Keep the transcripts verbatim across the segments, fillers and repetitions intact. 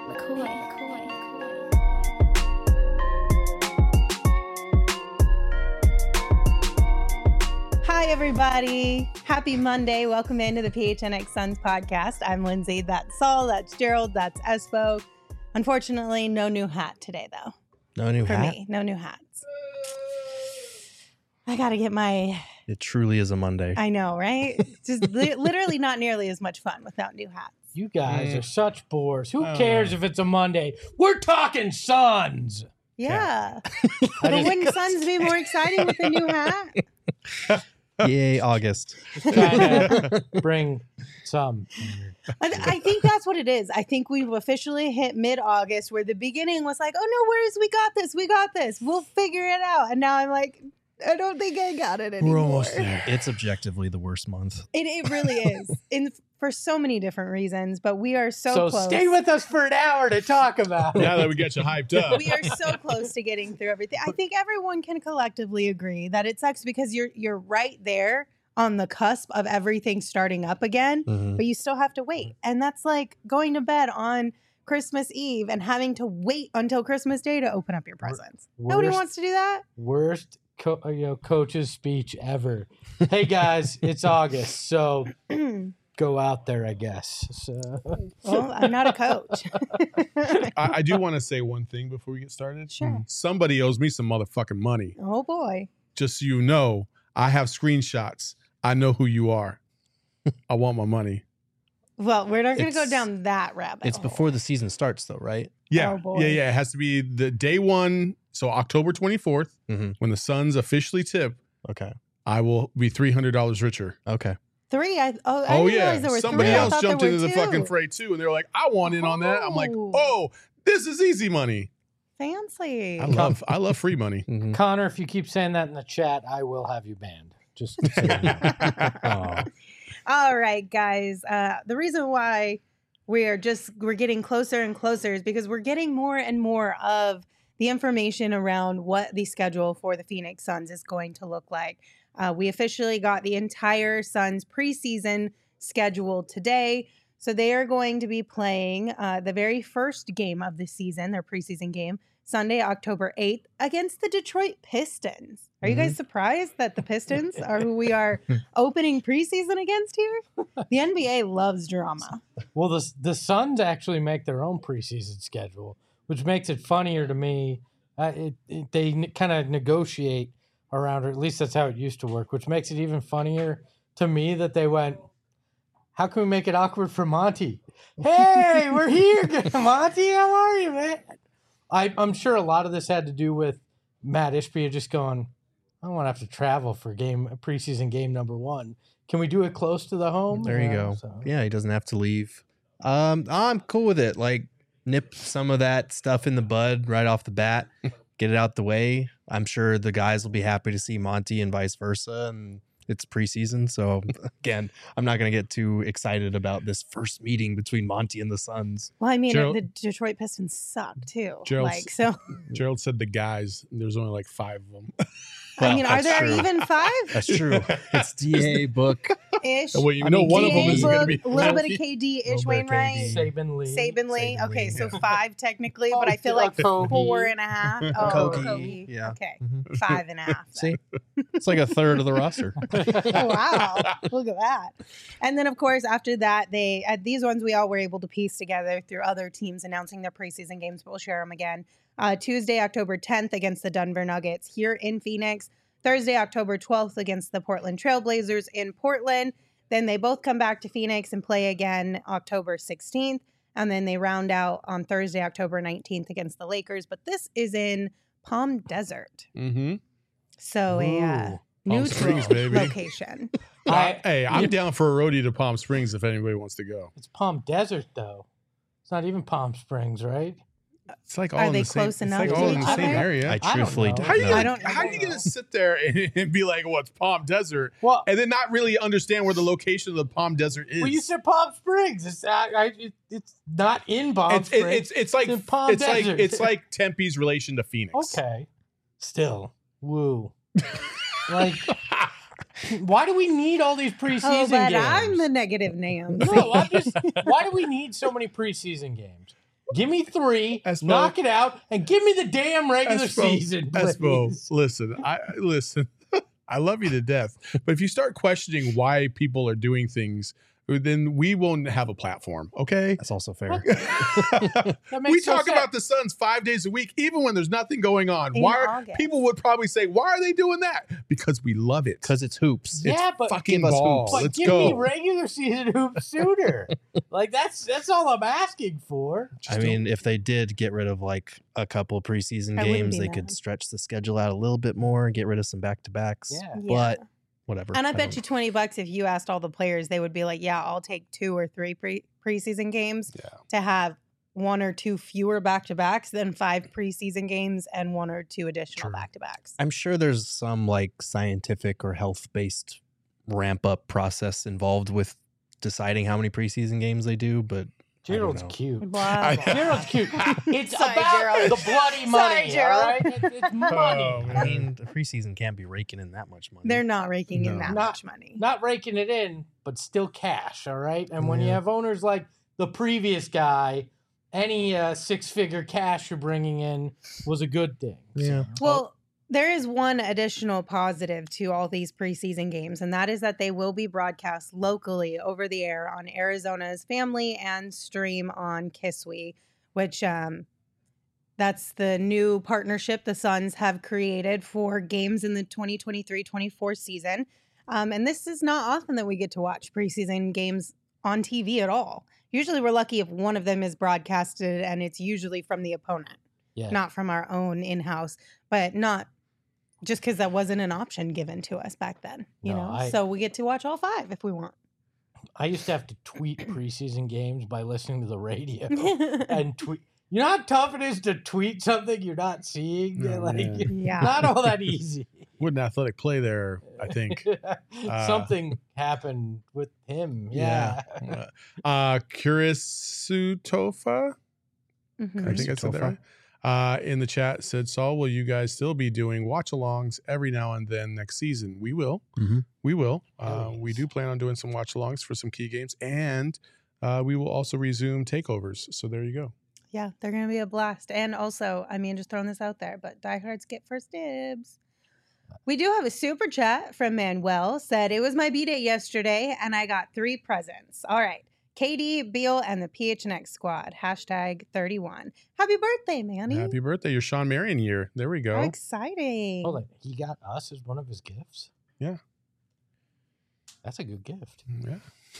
McCoy, McCoy, McCoy. Hi, everybody. Happy Monday. Welcome into the P H N X Suns podcast. I'm Lindsay. That's Saul. That's Gerald. That's Espo. Unfortunately, no new hat today, though. No new For hat? me, no new hats. I got to get my... It truly is a Monday. I know, right? Just li- literally not nearly as much fun without new hats. You guys Mm. are such bores. Who Oh. cares if it's a Monday? We're talking Suns. Yeah. I But just wouldn't Suns be more exciting with a new hat? Yay, August. trying to bring some. I, th- I think that's what it is. I think we've officially hit mid-August where the beginning was like, oh, no worries, we got this, we got this. We'll figure it out. And now I'm like, I don't think I got it anymore. We're almost there. It's objectively the worst month. It, it really is, in for so many different reasons, but we are so, So close. stay with us for an hour to talk about it. Now that we get you hyped up. We are so close to getting through everything. I think everyone can collectively agree that it sucks because you're you're right there on the cusp of everything starting up again, Mhm. but you still have to wait. And that's like going to bed on Christmas Eve and having to wait until Christmas Day to open up your presents. Nobody worst- wants to do that. Worst co- you know, coach's speech ever. Hey guys, it's August, so go out there, I guess. So Well, I'm not a coach. I, I do want to say one thing before we get started. Sure. Somebody owes me some motherfucking money. Oh boy. Just so you know, I have screenshots. I know who you are. I want my money. Well, we're not going to go It's- down that rabbit It's hole. before the season starts, though, right? Yeah. Oh, boy. yeah, yeah. It has to be the day one. So October twenty-fourth, Mhm. when the Suns officially tip, Okay. I will be three hundred dollars richer. Okay. Three. I, oh, I Oh, didn't yeah. realize there were Somebody three. I else thought there jumped were into the two. fucking fray too. And they were like, I want in on that. I'm like, Oh. oh, this is easy money. Fancy. I love I love free money. Mhm. Connor, if you keep saying that in the chat, I will have you banned. Just so you know. Aw. All right, guys. Uh, the reason why we are just we're getting closer and closer is because we're getting more and more of the information around what the schedule for the Phoenix Suns is going to look like. Uh, we officially got the entire Suns preseason schedule today. So they are going to be playing uh, the very first game of the season, their preseason game, Sunday, October eighth, against the Detroit Pistons. Are you guys surprised that the Pistons are who we are opening preseason against here? The N B A loves drama. Well, the the Suns actually make their own preseason schedule, which makes it funnier to me. Uh, it, it, they n- kind of negotiate around, or at least that's how it used to work, which makes it even funnier to me that they went, how can we make it awkward for Monty? Hey, we're here, Monty. How are you, man? I, I'm sure a lot of this had to do with Matt Ishbia just going, I don't want to have to travel for game preseason game number one. Can we do it close to the home? There you Yeah, go. so- Yeah, he doesn't have to leave. Um, I'm cool with it. Like, nip some of that stuff in the bud right off the bat. Get it out the way. I'm sure the guys will be happy to see Monty and vice versa. And it's preseason. So, again, I'm not going to get too excited about this first meeting between Monty and the Suns. Well, I mean, Gerald- the Detroit Pistons suck too. Gerald's- like, so, Gerald said the guys. There's only like five of them. I mean, are that's there true. even five That's true. It's D A book. ish? Well, you I know, mean, one of them D A is going to book, be a little bit of Loki. K D ish, Little bit of Wainwright. K D. Saban Lee. Saban Lee. Saban Okay, Lee, so yeah. five technically, but I feel like Kobe. four and a half. Oh, Kobe, Kobe. yeah. Okay, Mhm. five and a half. then. See, it's like a third of the roster. Oh, wow, look at that. And then, of course, after that, they at these ones we all were able to piece together through other teams announcing their preseason games, but we'll share them again. Uh, Tuesday, October tenth against the Denver Nuggets here in Phoenix. Thursday, October twelfth against the Portland Trailblazers in Portland. Then they both come back to Phoenix and play again October sixteenth. And then they round out on Thursday, October nineteenth against the Lakers. But this is in Palm Desert. Mm-hmm. So a uh, Ooh. Palm neutral Springs, baby. location. I- hey, I'm down for a roadie to Palm Springs if anybody wants to go. It's Palm Desert, though. It's not even Palm Springs, right? It's like all Are in they the same, close it's enough like to all in each the same other? area. I don't truthfully know. don't how you know. gonna, I don't how know. you gonna sit there and, and be like, "Well, it's Palm Desert," Well, and then not really understand where the location of the Palm Desert is? well you said Palm Springs. It's I, I, it, it's not in Palm it's, Springs. it, it's it's like It's in Palm it's like Desert. it's like Tempe's relation to Phoenix. okay. Still, woo. Like, why do we need all these preseason Oh, but games? I'm the negative Nam. no, I'm just. Why do we need so many preseason games? Give me three, Espo. knock it out, and give me the damn regular Espo, season, please. Espo, listen, I listen. I love you to death, but if you start questioning why people are doing things, then we won't have a platform. Okay. That's also fair. That We makes no talk sense. about the Suns five days a week, even when there's nothing going on. In Why are, August. people would probably say, "Why are they doing that?" Because we love it. Because it's hoops. Yeah, it's but fucking give us ball. hoops. But Let's give go. me regular season hoops sooner. Like that's that's all I'm asking for. I mean, if they did get rid of like a couple preseason I wouldn't games, be they could mad. stretch the schedule out a little bit more, get rid of some back to backs. Yeah. But whatever. And I bet don't- you twenty bucks if you asked all the players, they would be like, yeah, I'll take two or three pre preseason games Yeah. to have one or two fewer back to backs than five preseason games and one or two additional True. back to backs. I'm sure there's some like scientific or health based ramp up process involved with deciding how many preseason games they do, but I don't Gerald's know. cute. Wow. Gerald's cute. It's Sorry, about Gerald. the bloody money, Sorry, Gerald. all right? It's, it's money. Oh, I mean, the preseason can't be raking in that much money. They're not raking in No. that Not- much money. Not raking it in, but still cash, all right? And when you Yeah. have owners like the previous guy, any uh, six-figure cash you're bringing in was a good thing. Yeah. Well, there is one additional positive to all these preseason games, and that is that they will be broadcast locally over the air on Arizona's Family and stream on Kiswe, which um, that's the new partnership the Suns have created for games in the twenty twenty-three twenty-four season. Um, and this is not often that we get to watch preseason games on T V at all. Usually we're lucky if one of them is broadcasted, and it's usually from the opponent, Yeah. not from our own in-house, but not just because that wasn't an option given to us back then, you No, know? I- So we get to watch all five if we want. I used to have to tweet preseason games by listening to the radio and tweet. You know how tough it is to tweet something you're not seeing? Oh, like, man. Yeah. not all that easy. What an athletic play there, I think. Uh, Something happened with him. Yeah. Yeah. Uh, Kurisutofa, Mhm. I think I said that right. Uh, in the chat said, Saul, will you guys still be doing watch alongs every now and then next season? We will. Mhm. We will. Uh, Oh, we yes. do plan on doing some watch alongs for some key games, and uh, we will also resume takeovers. So there you go. Yeah, they're going to be a blast. And also, I mean, just throwing this out there, but diehards get first dibs. We do have a super chat from Manuel. Said, it was my B-Day yesterday, and I got three presents. All right. K D, Beal, and the P H N X squad. Hashtag thirty-one. Happy birthday, Manny. Happy birthday. Your Sean Marion year. There we How go. exciting. Hold on. He got us as one of his gifts? Yeah. That's a good gift. Yeah.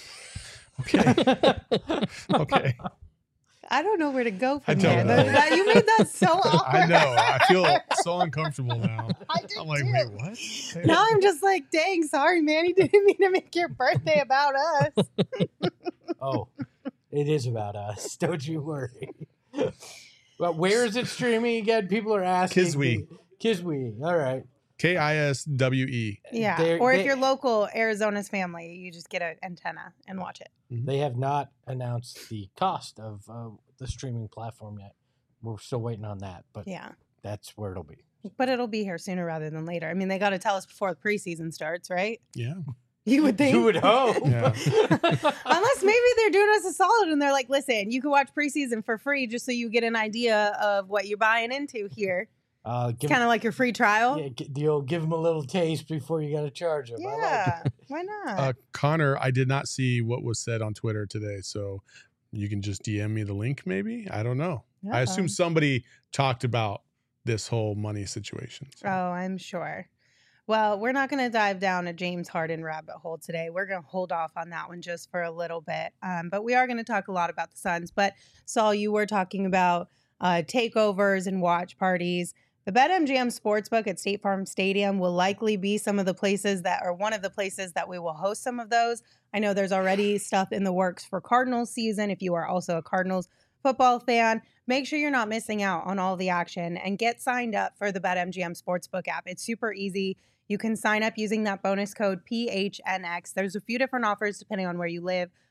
Okay. Okay. I don't know where to go I from don't there. know. That- that- you made that so awkward. I know. I feel so uncomfortable now. I did I'm like, too. wait, what? Now I'm just like, dang, sorry, Manny. Didn't mean to make your birthday about us. Oh, it is about us. Don't you worry. Well, where is it streaming again? People are asking. Kiswe. Kiswe. All right. K I S W E. Yeah. They're- or if they- you're local, Arizona's Family, you just get an antenna and watch it. They have not announced the cost of uh, the streaming platform yet. We're still waiting on that, but Yeah. that's where it'll be. But it'll be here sooner rather than later. I mean, they got to tell us before the preseason starts, right? Yeah. You would think. You would hope. Yeah. Unless maybe they're doing us a solid and they're like, listen, you can watch preseason for free just so you get an idea of what you're buying into here. uh, give, Kind of like your free trial. yeah, g- you'll give them a little taste before you got to charge them. I like Yeah. it. Why not? Uh, Connor, I did not see what was said on Twitter today, so you can just D M me the link, maybe. I don't know. I assume Uh-oh. somebody talked about this whole money situation. so. Oh, I'm sure. Well, we're not going to dive down a James Harden rabbit hole today. We're going to hold off on that one just for a little bit. Um, but we are going to talk a lot about the Suns. But Saul, you were talking about uh, takeovers and watch parties. The BetMGM Sportsbook at State Farm Stadium will likely be some of the places that are one of the places that we will host some of those. I know there's already stuff in the works for Cardinals season. If you are also a Cardinals football fan, make sure you're not missing out on all the action and get signed up for the BetMGM Sportsbook app. It's super easy. You can sign up using that bonus code P H N X. There's a few different offers depending on where you live.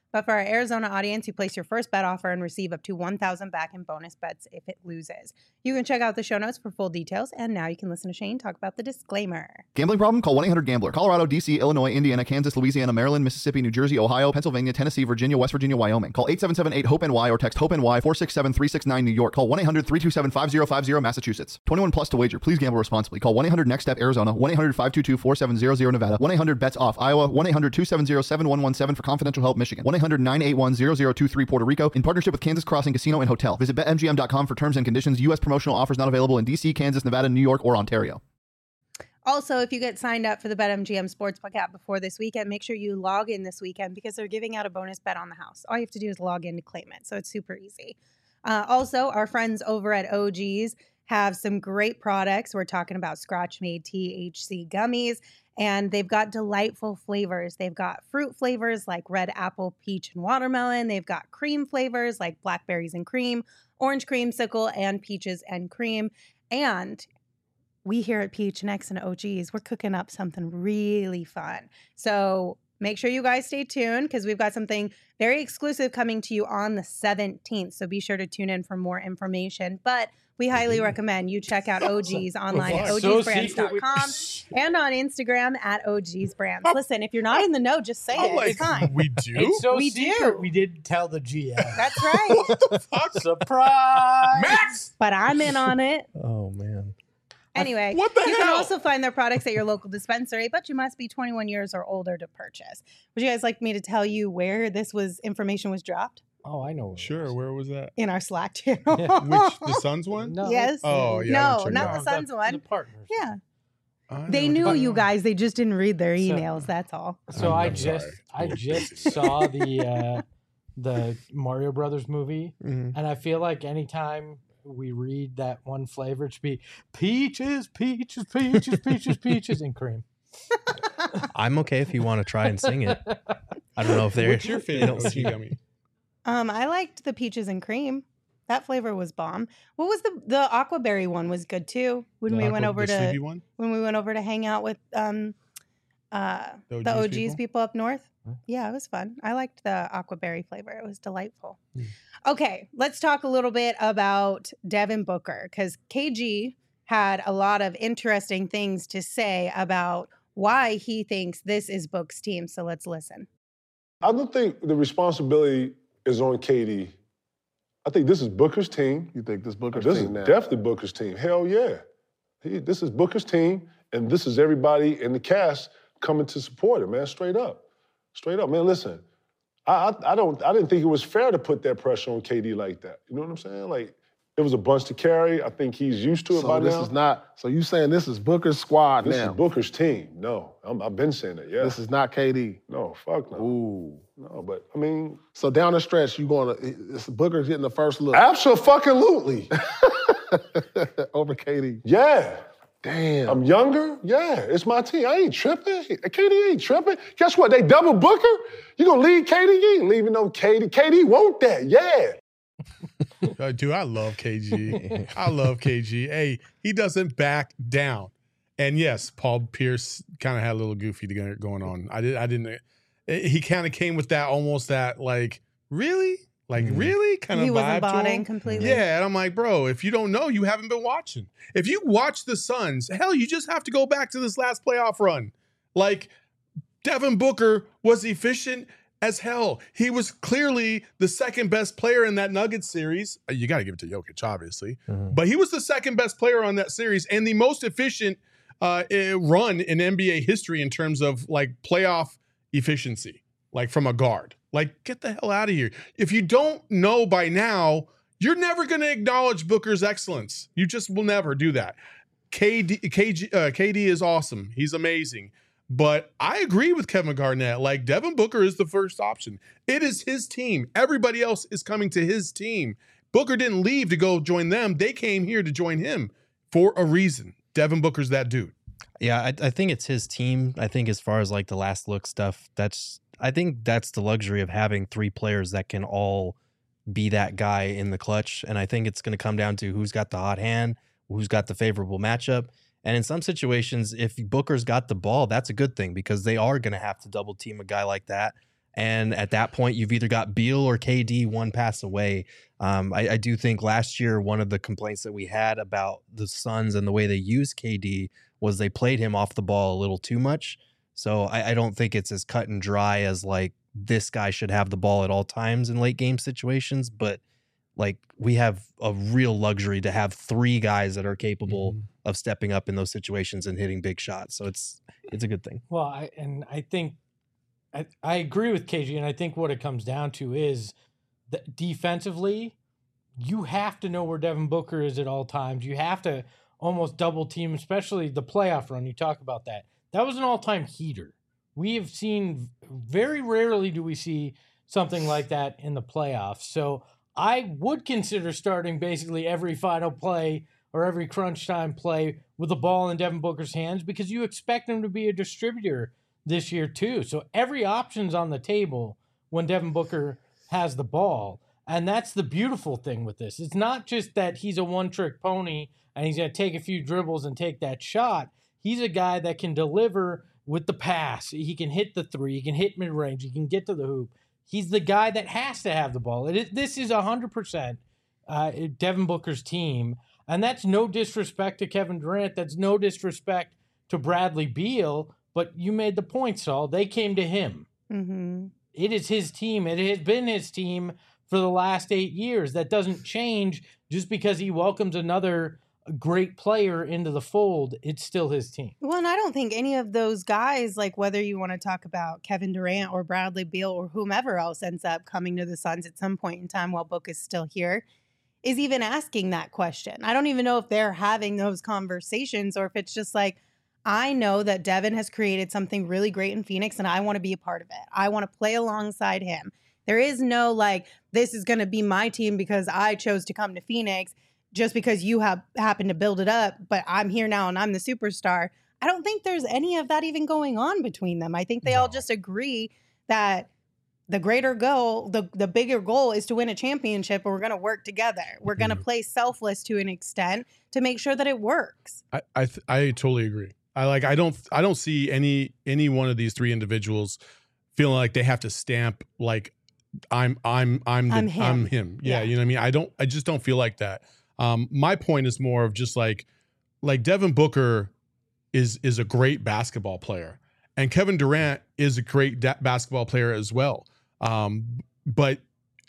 But for our Arizona audience, you place your first bet offer and receive up to one thousand back in bonus bets if it loses. You can check out the show notes for full details. And now you can listen to Shane talk about the disclaimer. Gambling problem? Call one eight hundred gambler. Colorado, D C, Illinois, Indiana, Kansas, Louisiana, Maryland, Mississippi, New Jersey, Ohio, Pennsylvania, Tennessee, Virginia, West Virginia, Wyoming. Call eight seven seven eight hope N Y or text HOPE-NY four six seven three six nine New York. Call one eight hundred three two seven five zero five zero Massachusetts. twenty-one plus to wager. Please gamble responsibly. Call one eight hundred next step Arizona. one eight hundred five two two four seven zero zero Nevada. one eight hundred bets off Iowa. one eight hundred two seven zero seven one one seven for confidential help Michigan. one eight hundred nine eight one zero zero two three Puerto Rico in partnership with Kansas Crossing Casino and Hotel. Visit bet M G M dot com for terms and conditions. U S promotional offers not available in D C, Kansas, Nevada, New York, or Ontario. Also, if you get signed up for the BetMGM Sportsbook app before this weekend, make sure you log in this weekend because they're giving out a bonus bet on the house. All you have to do is log in to claim it, so it's super easy. Uh, also, our friends over at O G's have some great products. We're talking about Scratch-Made T H C gummies, and they've got delightful flavors. They've got fruit flavors like red apple, peach, and watermelon. They've got cream flavors like blackberries and cream, orange creamsicle, and peaches and cream. And we here at P H N X and O G's, we're cooking up something really fun. So make sure you guys stay tuned because we've got something very exclusive coming to you on the seventeenth. So be sure to tune in for more information. But we highly recommend you check out O G's online at O Gs brands dot com and on Instagram at O Gs Brands. Listen, if you're not in the know, just say I'm it. like, It's fine. we do? It's so We secret. do. We didn't tell the G M. That's right. Fuck. Surprise! Max! But I'm in on it. Oh man. Anyway, What the you can hell? also find their products at your local dispensary, but you must be twenty-one years or older to purchase. Would you guys like me to tell you where this was information was dropped? Oh, I know. Where it Sure, was. where was that? In our Slack channel. Which, the Suns one? No. Yes. Oh, yeah. I No, don't check not that the Suns one. The partners. Yeah. out. I They never knew did. you guys. They just didn't read their So- emails. That's all. So I'm- I I'm just sorry. I just saw the uh, the Mario Brothers movie, Mhm. and I feel like anytime we read that one flavor, it should be peaches, peaches, peaches, peaches, peaches, and cream. I'm okay if you want to try and sing it. I don't know if they're. What's your they favorite don't O G see- gummy? Um, I liked the peaches and cream. That flavor was bomb. What was the the aquaberry one was good too. When we The went aqua- over the to sleepy one? when we went over to hang out with um uh The the O Gs O Gs people? people? up north. Huh? Yeah, it was fun. I liked the aquaberry flavor. It was delightful. Hmm. Okay, let's talk a little bit about Devin Booker because K G had a lot of interesting things to say about why he thinks this is Book's team. So let's listen. I don't think the responsibility is on K D. I think this is Booker's team. You think this Booker's This is team now? definitely Booker's team. Hell yeah. He, this is Booker's team, and this is everybody in the cast coming to support him, man, straight up. Straight up. Man, listen, I, I, I don't I didn't think it was fair to put that pressure on K D like that. You know what I'm saying? Like, it was a bunch to carry. I think he's used to it so by this now. is not. So you saying this is Booker's squad this now? is Booker's team. No, I'm, I've been saying that, yeah. This is not K D. no, fuck no. Ooh. No, but, I mean, So down the stretch, you going to it's Booker's getting the first look absolutely. over K D. Yeah. Damn. I'm younger. Yeah, it's my team. I ain't tripping. K D ain't tripping. Guess what? They double Booker. You gonna leave K D? You ain't leaving no K D. K D want that. Yeah. Uh, dude, I love K G. I love K G. Hey, he doesn't back down. And yes, Paul Pierce kind of had a little goofy to- going on. I did. I didn't. He kind of came with that almost that like really, like Mhm. really kind of He wasn't vibe to botting him. completely. Yeah, and I'm like, bro, if you don't know, you haven't been watching. If you watch the Suns, hell, you just have to go back to this last playoff run. Like, Devin Booker was efficient as hell. He was clearly the second best player in that Nuggets series. Uh, You got to give it to Jokic, obviously. Mhm. But he was the second best player on that series and the most efficient uh, eh, run in N B A history in terms of like playoff efficiency, like from a guard. Like, get the hell out of here. If you don't know by now, you're never going to acknowledge Booker's excellence. You just will never do that. K D, K G, uh, K D is awesome. He's amazing. But I agree with Kevin Garnett. Like, Devin Booker is the first option. It is his team. Everybody else is coming to his team. Booker didn't leave to go join them. They came here to join him for a reason. Devin Booker's that dude. Yeah, I, I think it's his team. I think as far as like the last look stuff, that's I think that's the luxury of having three players that can all be that guy in the clutch. And I think it's going to come down to who's got the hot hand, who's got the favorable matchup. And in some situations, if Booker's got the ball, that's a good thing because they are going to have to double team a guy like that. And at that point, you've either got Beal or K D one pass away. Um, I, I do think last year, one of the complaints that we had about the Suns and the way they use K D was they played him off the ball a little too much. So I, I don't think it's as cut and dry as like this guy should have the ball at all times in late game situations. But like we have a real luxury to have three guys that are capable mm-hmm. of stepping up in those situations and hitting big shots. So it's it's a good thing. Well, I, and I think I, I agree with K G, and I think what it comes down to is that defensively, you have to know where Devin Booker is at all times. You have to almost double team, especially the playoff run. You talk about that. That was an all-time heater. We have seen, very rarely do we see something like that in the playoffs. So I would consider starting basically every final play or every crunch time play with the ball in Devin Booker's hands because you expect him to be a distributor this year too. So every option's on the table when Devin Booker has the ball. And that's the beautiful thing with this. It's not just that he's a one-trick pony and he's going to take a few dribbles and take that shot. He's a guy that can deliver with the pass. He can hit the three. He can hit mid-range. He can get to the hoop. He's the guy that has to have the ball. It is, this is one hundred percent uh, Devin Booker's team. And that's no disrespect to Kevin Durant. That's no disrespect to Bradley Beal. But you made the point, Saul. They came to him. Mm-hmm. It is his team. It has been his team for the last eight years. That doesn't change just because he welcomes another great player into the fold. It's still his team. Well, and I don't think any of those guys, like whether you want to talk about Kevin Durant or Bradley Beal or whomever else ends up coming to the Suns at some point in time while Book is still here, is even asking that question. I don't even know if they're having those conversations or if it's just like, I know that Devin has created something really great in Phoenix and I want to be a part of it. I want to play alongside him. There is no like, this is going to be my team because I chose to come to Phoenix just because you have happened to build it up, but I'm here now and I'm the superstar. I don't think there's any of that even going on between them. I think they no. all just agree that the greater goal, the, the bigger goal is to win a championship, and we're going to work together. We're going to mm. play selfless to an extent to make sure that it works. I I, th- I totally agree. I like I don't I don't see any any one of these three individuals feeling like they have to stamp like I'm I'm I'm the, I'm him. I'm him. Yeah, yeah, you know what I mean? I don't I just don't feel like that. Um, my point is more of just like, like Devin Booker is is a great basketball player, and Kevin Durant is a great da- basketball player as well. Um, but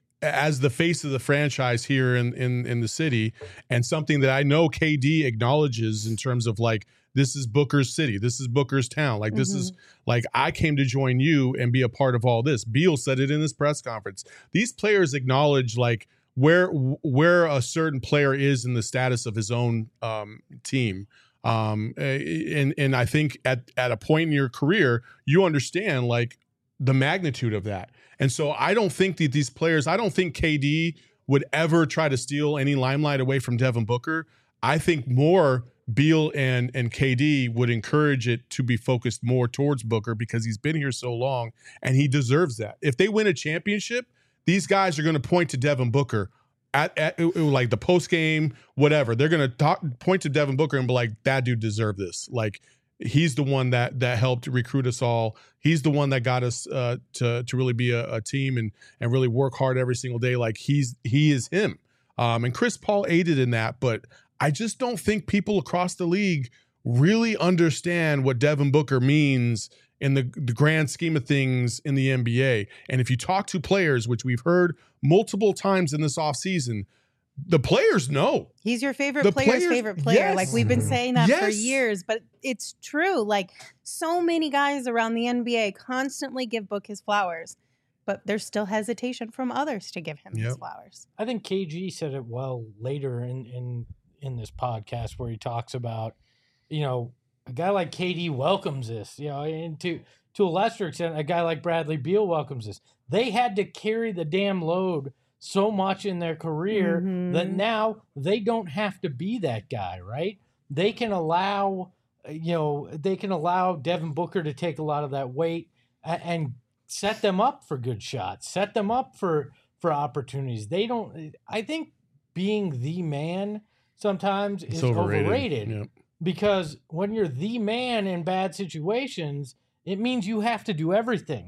as the face of the franchise here in, in in the city, and something that I know K D acknowledges in terms of like, this is Booker's city, this is Booker's town. Like, this mm-hmm. is like, I came to join you and be a part of all this. Beal said it in his press conference. These players acknowledge like, where where a certain player is in the status of his own um, team. Um, and and I think at, at a point in your career, you understand like the magnitude of that. And so I don't think that these players, I don't think K D would ever try to steal any limelight away from Devin Booker. I think more Beal and, and K D would encourage it to be focused more towards Booker because he's been here so long and he deserves that. If they win a championship, these guys are going to point to Devin Booker at, at like the post game, whatever. They're going to talk, point to Devin Booker and be like, that dude deserved this. Like, he's the one that that helped recruit us all. He's the one that got us uh, to to really be a, a team and and really work hard every single day. Like, he's he is him. Um, and Chris Paul aided in that, but I just don't think people across the league really understand what Devin Booker means in the, the grand scheme of things in the N B A. And if you talk to players, which we've heard multiple times in this offseason, the players know. He's your favorite the player's players, favorite player. Yes. Like, we've been saying that yes. for years, but it's true. Like, so many guys around the N B A constantly give Book his flowers, but there's still hesitation from others to give him yep. his flowers. I think K G said it well later in, in, in this podcast where he talks about, you know, a guy like K D welcomes this, you know, and to, to a lesser extent, a guy like Bradley Beal welcomes this. They had to carry the damn load so much in their career mm-hmm. that now they don't have to be that guy, right? They can allow, you know, they can allow Devin Booker to take a lot of that weight and, and set them up for good shots, set them up for, for opportunities. They don't, I think being the man sometimes it's is overrated, overrated yep. because when you're the man in bad situations, it means you have to do everything.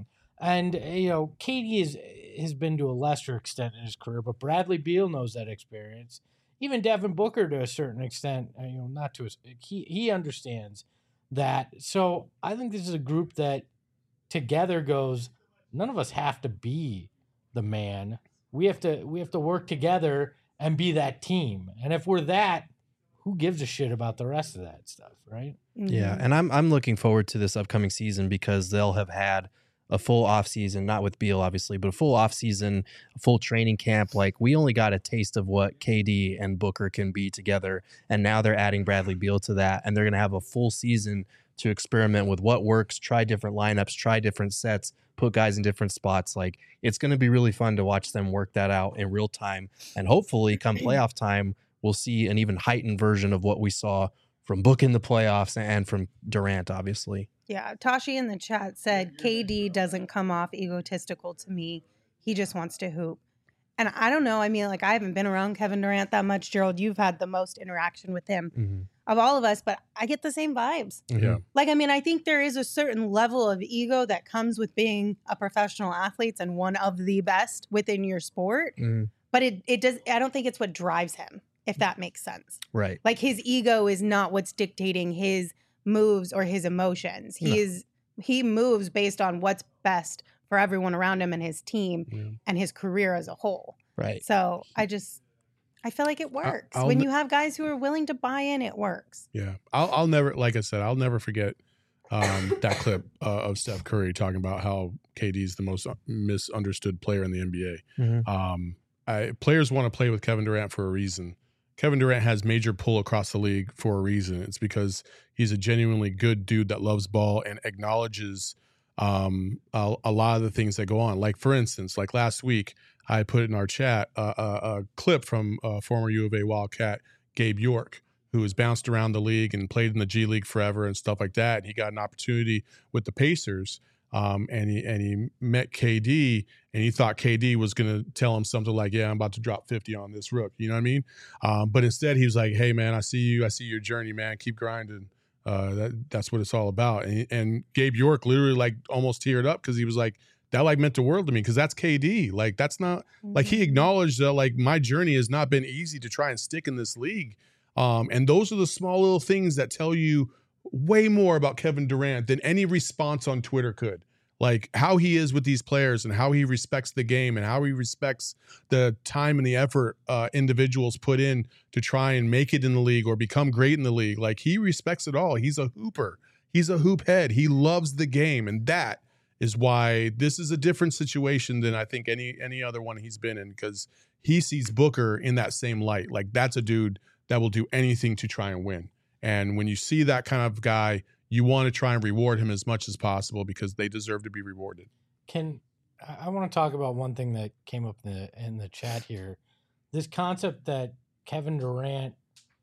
And you know, K D is has been to a lesser extent in his career, but Bradley Beal knows that experience. Even Devin Booker, to a certain extent, you know, not to a, he he understands that. So I think this is a group that together goes. None of us have to be the man. We have to we have to work together and be that team. And if we're that, who gives a shit about the rest of that stuff, right? Yeah, and I'm I'm looking forward to this upcoming season because they'll have had a full off season, not with Beal obviously, but a full off season, a full training camp. Like we only got a taste of what K D and Booker can be together, and now they're adding Bradley Beal to that, and they're going to have a full season to experiment with what works, try different lineups, try different sets, put guys in different spots. Like it's going to be really fun to watch them work that out in real time, and hopefully come playoff time, we'll see an even heightened version of what we saw from Book in the playoffs and from Durant, obviously. Yeah, Tashi in the chat said K D doesn't come off egotistical to me. He just wants to hoop. And I don't know. I mean, like, I haven't been around Kevin Durant that much. Gerald, you've had the most interaction with him Mm-hmm. of all of us, but I get the same vibes. Yeah. Like, I mean, I think there is a certain level of ego that comes with being a professional athlete and one of the best within your sport. Mm-hmm. But it, it does, I don't think it's what drives him, if that makes sense. Right. Like his ego is not what's dictating his moves or his emotions. He No. is he moves based on what's best for everyone around him and his team Yeah. and his career as a whole. Right. So I just I feel like it works. I'll when ne- you have guys who are willing to buy in, it works. Yeah, I'll, I'll never, like I said, I'll never forget um, that clip uh, of Steph Curry talking about how K D is the most misunderstood player in the N B A. Mm-hmm. Um, I, players want to play with Kevin Durant for a reason. Kevin Durant has major pull across the league for a reason. It's because he's a genuinely good dude that loves ball and acknowledges um, a, a lot of the things that go on. Like, for instance, like last week, I put in our chat uh, a, a clip from uh, former U of A Wildcat Gabe York, who has bounced around the league and played in the G League forever and stuff like that. And he got an opportunity with the Pacers, um, and he and he met K D, and he thought K D was going to tell him something like, "Yeah, I'm about to drop fifty on this rook." You know what I mean? Um, but instead, he was like, "Hey, man, I see you. I see your journey, man. Keep grinding. Uh, that, that's what it's all about." And, and Gabe York literally like almost teared up because he was like, that like meant the world to me because that's K D. Like that's not like he acknowledged that like my journey has not been easy to try and stick in this league. Um, and those are the small little things that tell you way more about Kevin Durant than any response on Twitter could. Like how he is with these players and how he respects the game and how he respects the time and the effort uh, individuals put in to try and make it in the league or become great in the league. Like he respects it all. He's a hooper. He's a hoop head. He loves the game. And that is why this is a different situation than I think any any other one he's been in, because he sees Booker in that same light. Like that's a dude that will do anything to try and win. And when you see that kind of guy, you want to try and reward him as much as possible because they deserve to be rewarded. Can I want to talk about one thing that came up in the in the chat here? This concept that Kevin Durant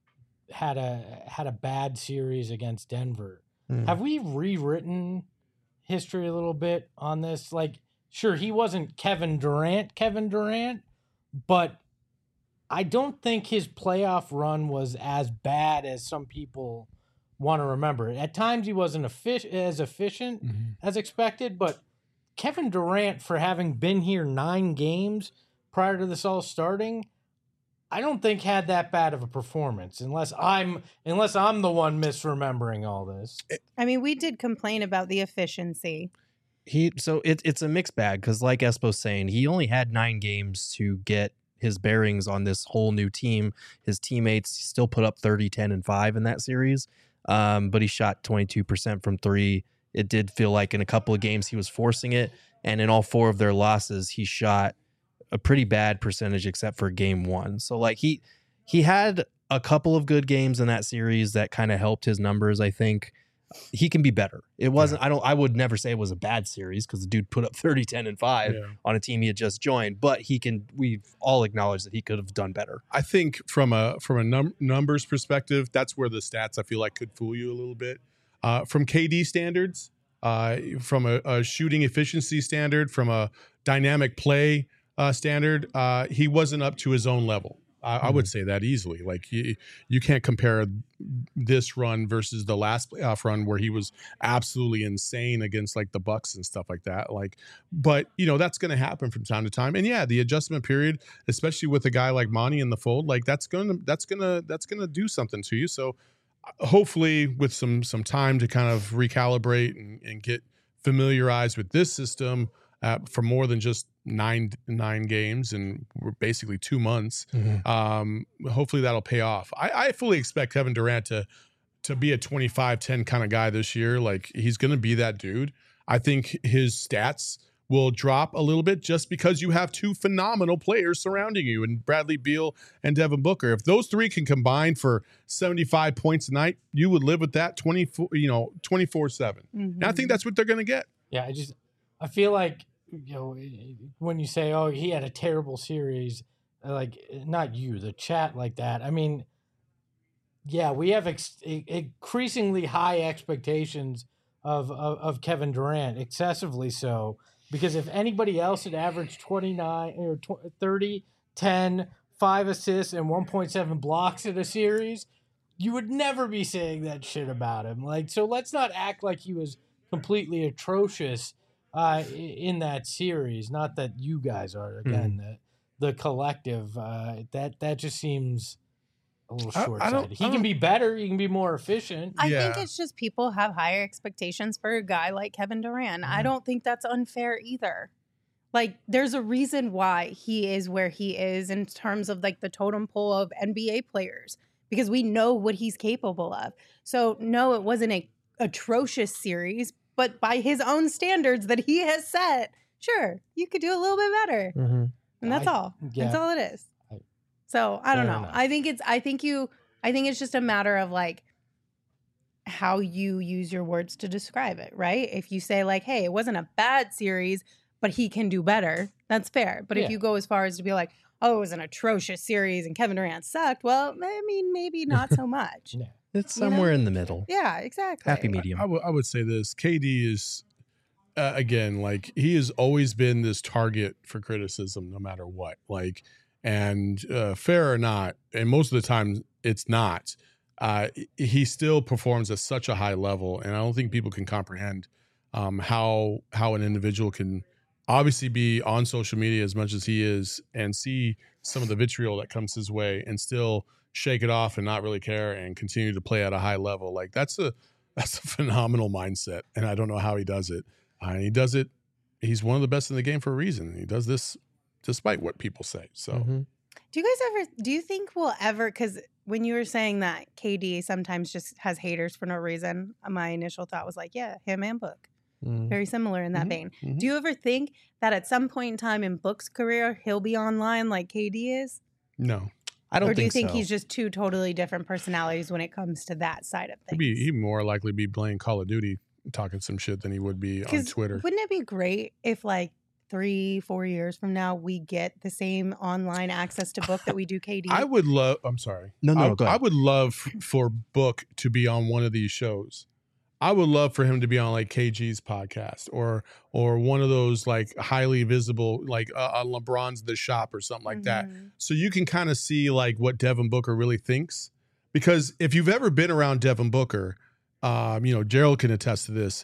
had a had a bad series against Denver. Mm. Have we rewritten history a little bit on this? Like, sure, he wasn't Kevin Durant, Kevin Durant, but I don't think his playoff run was as bad as some people want to remember. At times he wasn't effic- as efficient Mm-hmm. as expected, but Kevin Durant, for having been here nine games prior to this all starting, I don't think had that bad of a performance, unless I'm unless I'm the one misremembering all this. I mean, we did complain about the efficiency. He so it, it's a mixed bag because, like Espo's saying, he only had nine games to get his bearings on this whole new team. His teammates still put up thirty, ten, and five in that series, um, but he shot twenty-two percent from three. It did feel like in a couple of games he was forcing it, and in all four of their losses, he shot a pretty bad percentage except for game one. So like he he had a couple of good games in that series that kind of helped his numbers. I think he can be better. It wasn't, yeah. I don't, I would never say it was a bad series because the dude put up thirty, ten, and five Yeah. on a team he had just joined, but he can, we've all acknowledged that he could have done better. I think from a from a num- numbers perspective, that's where the stats I feel like could fool you a little bit. Uh, from K D standards, uh, from a, a shooting efficiency standard, from a dynamic play uh, standard, uh, he wasn't up to his own level. I, I would say that easily. Like you, you can't compare this run versus the last playoff run where he was absolutely insane against like the Bucks and stuff like that. Like, but you know that's going to happen from time to time. And yeah, the adjustment period, especially with a guy like Monty in the fold, like that's gonna that's gonna that's gonna do something to you. So hopefully, with some some time to kind of recalibrate and, and get familiarized with this system uh, for more than just nine nine games and we're basically two months. Mm-hmm. Um, hopefully that'll pay off. I, I fully expect Kevin Durant to to be a twenty-five ten kind of guy this year. Like he's going to be that dude. I think his stats will drop a little bit just because you have two phenomenal players surrounding you and Bradley Beal and Devin Booker. If those three can combine for seventy-five points a night, you would live with that twenty-four, you know, twenty-four seven. Mm-hmm. And I think that's what they're going to get. Yeah, I just I feel like you know, when you say, "Oh, he had a terrible series," like not you, the chat like that. I mean, yeah, we have ex- increasingly high expectations of, of of Kevin Durant, excessively so. Because if anybody else had averaged twenty-nine or thirty, ten, five assists, and one point seven blocks in a series, you would never be saying that shit about him. Like, so let's not act like he was completely atrocious uh, in that series. Not that you guys are, again, mm. the, the collective. Uh, that that just seems a little short-sighted. He can be better. He can be more efficient. I yeah. think it's just people have higher expectations for a guy like Kevin Durant. Mm-hmm. I don't think that's unfair either. Like, there's a reason why he is where he is in terms of, like, the totem pole of N B A players, because we know what he's capable of. So, no, it wasn't a atrocious series, but by his own standards that he has set, sure, you could do a little bit better. Mm-hmm. And that's I, all. Yeah. That's all it is. I, so, I don't know. Enough. I think it's, I think you, I think it's just a matter of, like, how you use your words to describe it, right? If you say, like, hey, it wasn't a bad series, but he can do better, that's fair. But yeah. if you go as far as to be like, oh, it was an atrocious series and Kevin Durant sucked, well, I mean, maybe not so much. yeah. It's somewhere you know? in the middle. Yeah, exactly. Happy medium. I, I, w- I would say this. K D is, uh, again, like, he has always been this target for criticism no matter what. Like, and uh, fair or not, and most of the time it's not, uh, he still performs at such a high level. And I don't think people can comprehend um, how how an individual can obviously be on social media as much as he is and see some of the vitriol that comes his way and still shake it off and not really care and continue to play at a high level. Like that's a, that's a phenomenal mindset. And I don't know how he does it. Uh, he does it. He's one of the best in the game for a reason. He does this despite what people say. So mm-hmm. do you guys ever, do you think we'll ever, cause when you were saying that K D sometimes just has haters for no reason, my initial thought was like, yeah, him and Book. Mm-hmm. Very similar in that mm-hmm. vein. Mm-hmm. Do you ever think that at some point in time in Book's career, he'll be online like K D is? No. I don't or do think you think so. he's just two totally different personalities when it comes to that side of things? He'd, be, he'd more likely be playing Call of Duty, talking some shit than he would be on Twitter. Wouldn't it be great if like three, four years from now, we get the same online access to Book that we do K D? I would love, I'm sorry. No, no, I, go ahead. I would love for Book to be on one of these shows. I would love for him to be on like K G's podcast or or one of those like highly visible, like uh, uh, LeBron's The Shop or something like mm-hmm. that. So you can kind of see like what Devin Booker really thinks. Because if you've ever been around Devin Booker, um, you know, Gerald can attest to this.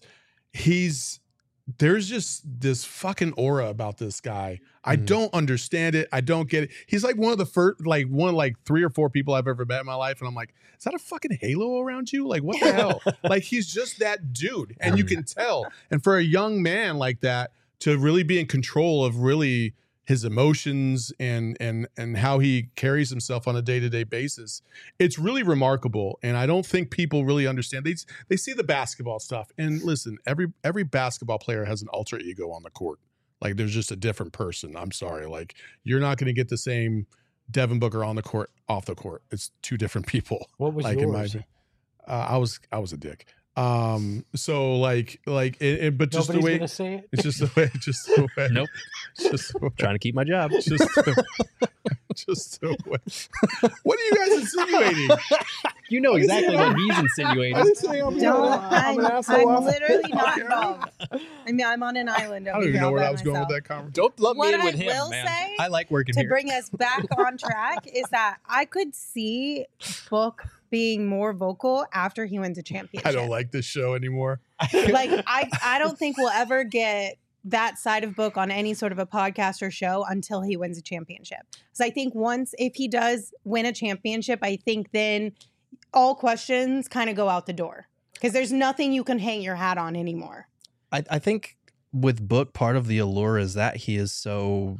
He's there's just this fucking aura about this guy. I mm-hmm. don't understand it. I don't get it. He's like one of the first, like one of like three or four people I've ever met in my life. And I'm like, is that a fucking halo around you? Like, what the hell? Like, he's just that dude. And you can tell. And for a young man like that to really be in control of really his emotions and and and how he carries himself on a day-to-day basis, it's really remarkable. And I don't think people really understand. They they see the basketball stuff. And listen, every every basketball player has an alter ego on the court. Like, there's just a different person. I'm sorry. Like, you're not going to get the same Devin Booker on the court, off the court. It's two different people. What was like, yours? In my, uh, I was I was a dick. Um, so like, like, it, it, but just Nobody's the way, gonna say it? it's just the way, just the way. Nope. Just the way, Trying to keep my job. just, the, just the way. What are you guys insinuating? You know exactly what he's I insinuating. didn't say I'm, Don't, I'm, I'm, an asshole. I'm literally not Okay. involved. I mean, I'm on an island I over don't even here know all where by I was going with myself. that conversation. Don't lump What me in I with him, will man. say I like working To here. bring us back on track is that I could see Book being more vocal after he wins a championship. I don't like this show anymore. like I, I don't think we'll ever get that side of Book on any sort of a podcast or show until he wins a championship. So I think once if he does win a championship, I think then all questions kind of go out the door because there's nothing you can hang your hat on anymore. I, I think with Book, part of the allure is that he is so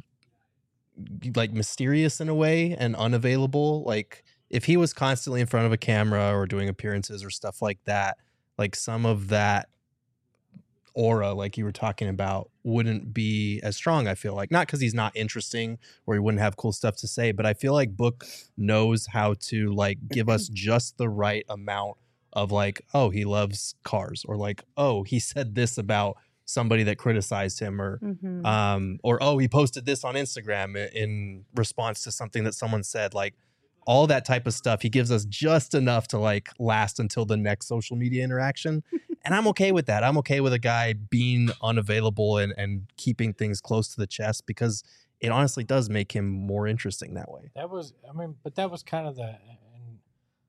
like mysterious in a way and unavailable. Like if he was constantly in front of a camera or doing appearances or stuff like that, like some of that aura, like you were talking about, wouldn't be as strong. I feel like not because he's not interesting or he wouldn't have cool stuff to say, but I feel like Book knows how to like give us just the right amount of like, oh, he loves cars, or like, oh, he said this about somebody that criticized him, or Mhm. um or oh, he posted this on Instagram i- in response to something that someone said. Like all that type of stuff, he gives us just enough to like last until the next social media interaction. And I'm okay with that. I'm okay with a guy being unavailable and, and keeping things close to the chest because it honestly does make him more interesting that way. That was, I mean, but that was kind of the, and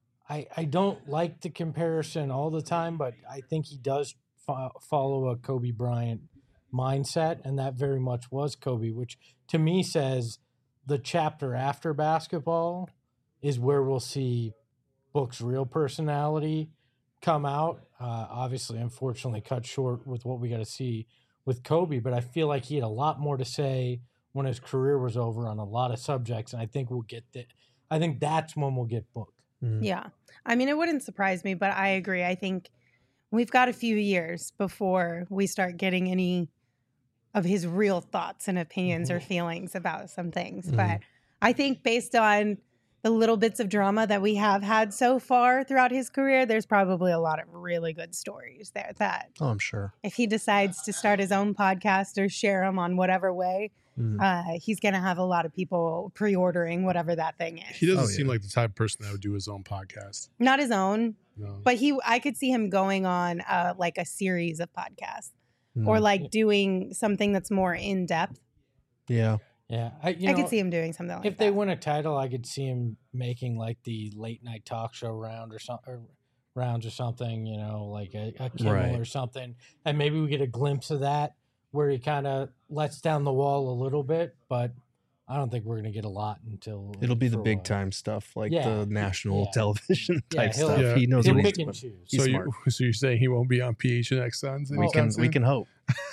I I don't like the comparison all the time, but I think he does fo- follow a Kobe Bryant mindset, and that very much was Kobe, which to me says the chapter after basketball is where we'll see Book's real personality come out. Uh, obviously, unfortunately, cut short with what we got to see with Kobe, but I feel like he had a lot more to say when his career was over on a lot of subjects, and I think we'll get that. I think that's when we'll get Book. Mhm. Yeah. I mean, it wouldn't surprise me, but I agree. I think we've got a few years before we start getting any of his real thoughts and opinions or feelings about some things. Mhm. But I think based on the little bits of drama that we have had so far throughout his career, there's probably a lot of really good stories there that Oh, I'm sure. if he decides to start his own podcast or share them on whatever way, Mhm. uh, he's going to have a lot of people pre-ordering whatever that thing is. He doesn't Oh, seem yeah. like the type of person that would do his own podcast. Not his own, No. but he I could see him going on uh, like a series of podcasts or Mhm. like doing something that's more in depth. Yeah. Yeah, I, you I know, could see him doing something like if that. they win a title, I could see him making like the late night talk show round or something, or rounds or something. You know, like a, a Kimmel Right. or something, and maybe we get a glimpse of that where he kind of lets down the wall a little bit. But I don't think we're gonna get a lot until It'll be the for a big while. time stuff, like Yeah. the national Yeah. television Yeah, type he'll- stuff. Yeah. He knows He'll what he's pick and doing. choose. He's so, smart. you, so you're saying he won't be on P H N X Suns? We can we can hope.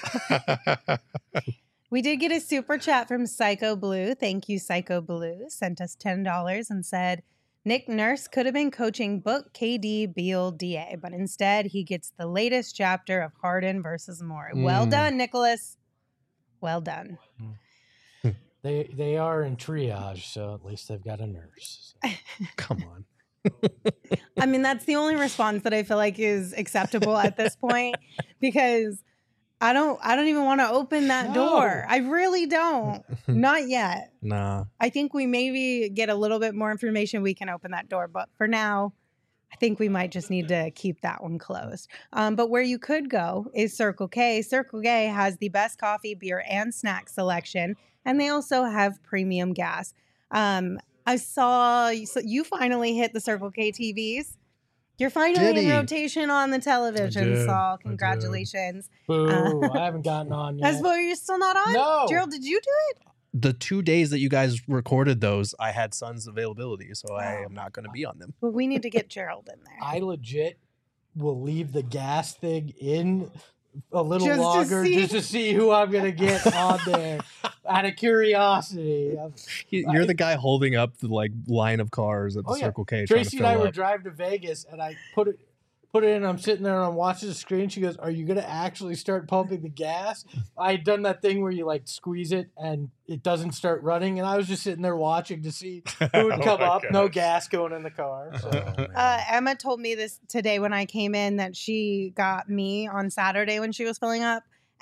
We did get a super chat from Psycho Blue. Thank you, Psycho Blue. Sent us ten dollars and said, Nick Nurse could have been coaching Book, K D, Beal, D A, but instead he gets the latest chapter of Harden versus Moore. Well Mm. done, Nicholas. Well done. They they are in triage, so at least they've got a nurse. So. Come on. I mean, that's the only response that I feel like is acceptable at this point because I don't I don't even want to open that No. door. I really don't. Not yet. Nah. I think we maybe get a little bit more information, we can open that door. But for now, I think we might just need to keep that one closed. Um, but where you could go is Circle K. Circle K has the best coffee, beer, and snack selection, and they also have premium gas. Um, I saw so you finally hit the Circle K T Vs. You're finally Did in he? rotation on the television, did. I Saul. did. Congratulations. Boo! Uh, I haven't gotten on yet. That's why you're still not on? No. Gerald, did you do it? The two days that you guys recorded those, I had Suns availability, so I Oh. am not going to be on them. Well, we need to get Gerald in there. I legit will leave the gas thing in a little Just to longer see. just to see who I'm gonna get on there out of curiosity. I'm- You- You're the guy holding up the like line of cars at the Oh, yeah. Circle K. trying to Tracy and I fill were up. driving to Vegas, and I put it put it in. I'm sitting there and I'm watching the screen. She goes, "Are you gonna actually start pumping the gas?" I had done that thing where you like squeeze it and it doesn't start running, and I was just sitting there watching to see who would come Oh my up. No gosh. gas going in the car. So. Oh, man. Uh, Emma told me this today when I came in that she got me on Saturday when she was filling up,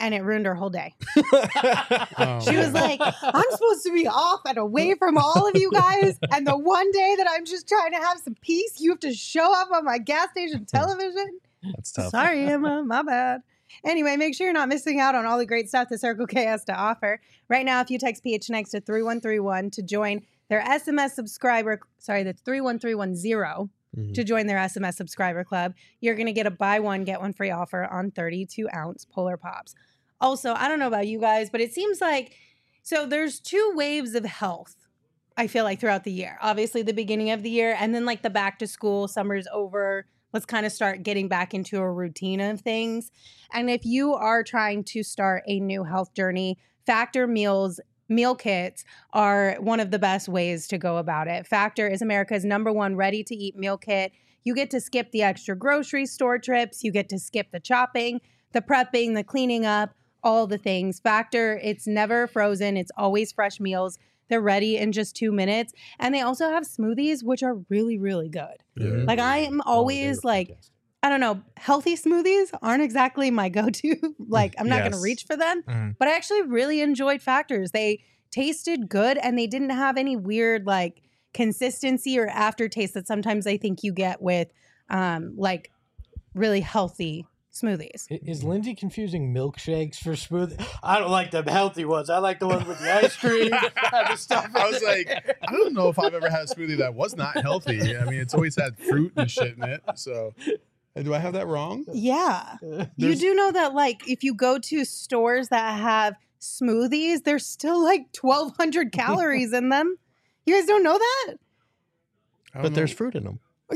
and it ruined her whole day. Oh, She was man. like, I'm supposed to be off and away from all of you guys. And the one day that I'm just trying to have some peace, you have to show up on my gas station television. That's tough. Sorry, Emma. My bad. Anyway, make sure you're not missing out on all the great stuff that Circle K has to offer. Right now, if you text P H N X to three one three one to join their S M S subscriber, sorry, that's three one three one zero Mhm. to join their S M S subscriber club, you're going to get a buy one, get one free offer on thirty-two ounce Polar Pops. Also, I don't know about you guys, but it seems like, so there's two waves of health, I feel like, throughout the year. Obviously, the beginning of the year, and then like the back to school, summer's over. Let's kind of start getting back into a routine of things. And if you are trying to start a new health journey, Factor Meals meal kits are one of the best ways to go about it. Factor is America's number one ready-to-eat meal kit. You get to skip the extra grocery store trips. You get to skip the chopping, the prepping, the cleaning up, all the things. Factor, it's never frozen. It's always fresh meals. They're ready in just two minutes. And they also have smoothies, which are really, really good. Mhm. Like I am always like, I don't know, healthy smoothies aren't exactly my go-to. Like I'm not going to Yes. reach for them, Mhm. but I actually really enjoyed Factors. They tasted good and they didn't have any weird like consistency or aftertaste that sometimes I think you get with um, like really healthy smoothies. I- Is Lindsay confusing milkshakes for smoothie? I don't like the healthy ones. I like the ones with the ice cream and the stuff. I was like, I don't know if I've ever had a smoothie that was not healthy. I mean, it's always had fruit and shit in it. So, uh, do I have that wrong? Yeah. You There's- do know that like if you go to stores that have smoothies, there's still like twelve hundred calories in them. You guys don't know that? I don't But there's know. fruit in them.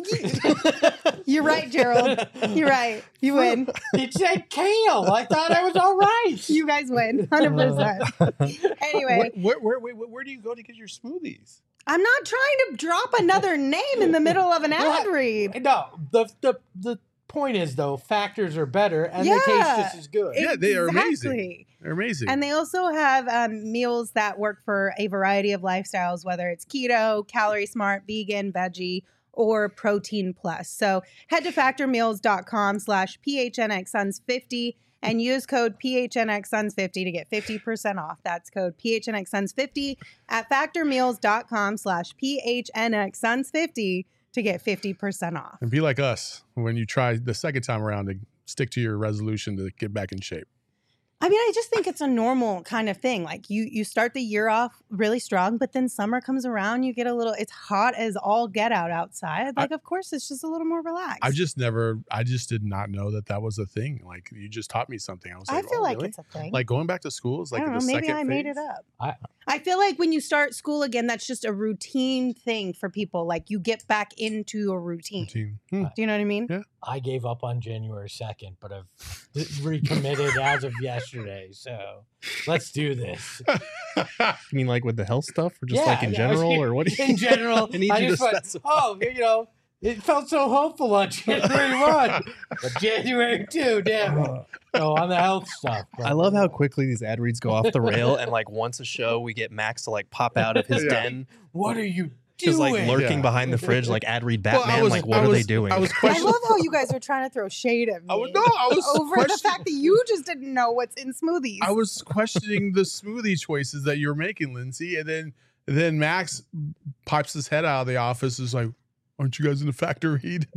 You're right, Gerald. You're right. You win. It said kale. I thought I was all right. You guys win. one hundred percent. Anyway, Where, where, where, where, where do you go to get your smoothies? I'm not trying to drop another name in the middle of an ad read. No, the the the point is though, Factors are better and they taste Yeah. just as good. Yeah, they are amazing. Exactly. They're amazing. And they also have um, meals that work for a variety of lifestyles, whether it's keto, calorie smart, vegan, veggie, or protein plus. So head to factormeals.com slash PHNXSons fifty and use code PHNXSons fifty to get fifty percent off. That's code PHNXSons fifty at factormeals.com slash PHNXSons fifty to get fifty percent off. and be like us when you try the second time around to stick to your resolution to get back in shape. I mean, I just think it's a normal kind of thing. Like you, you start the year off really strong, but then summer comes around, you get a little. It's hot as all get out outside. Like, of course, it's just a little more relaxed. I just never, I just did not know that that was a thing. Like you just taught me something. I was I like, feel oh, like really? it's a thing. Like going back to school is like I don't the know. Maybe second I made phase. it up. I- I feel like when you start school again, that's just a routine thing for people. Like you get back into a routine. Routine. Hmm. Do you know what I mean? Yeah. I gave up on January second, but I've recommitted as of yesterday. So let's do this. You mean like with the health stuff, or just Yeah, like in yeah, I was- general, or what? Do you, In general, I need I you just to went, specify. oh, you know, it felt so hopeful on January first, but January second, damn it. So on the health stuff. I love how quickly these ad reads go off the rail, and like once a show, we get Max to like pop out of his Yeah. den, What are you just doing? like lurking Yeah. behind the fridge, like ad read Well, I Batman. was- like, what I are was- they doing? I was I questioning. love how you guys are trying to throw shade at me. I was, no, I was over the question- fact that you just didn't know what's in smoothies. I was questioning the smoothie choices that you were making, Lindsay, and then then Max pipes his head out of the office. Is like, aren't you guys in the factor read?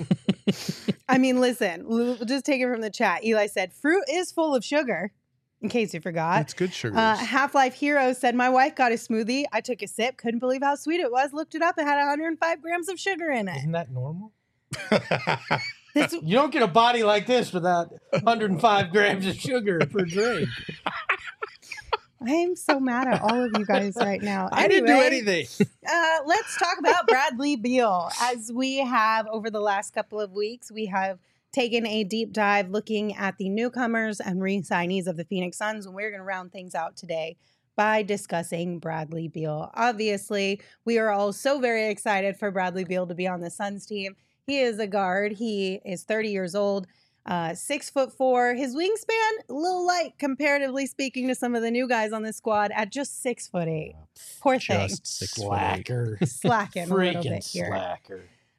I mean, listen, we'll just take it from the chat. Eli said, fruit is full of sugar, in case you forgot. That's good sugar. Uh, Half-Life Hero said, my wife got a smoothie. I took a sip, couldn't believe how sweet it was. Looked it up. It had one hundred five grams of sugar in it. Isn't that normal? This, You don't get a body like this without one hundred five grams of sugar per drink. I am so mad at all of you guys right now. I didn't do Anyway, anything. Uh, let's talk about Bradley Beal. As we have over the last couple of weeks, we have taken a deep dive looking at the newcomers and re-signees of the Phoenix Suns, and we're going to round things out today by discussing Bradley Beal. Obviously, we are all so very excited for Bradley Beal to be on the Suns team. He is a guard. He is thirty years old, uh, six foot four. His wingspan, a little light comparatively speaking to some of the new guys on the squad at just six foot eight. Poor thing. Just six foot eight. Slacker. Slacking a little Freaking bit here. slacker.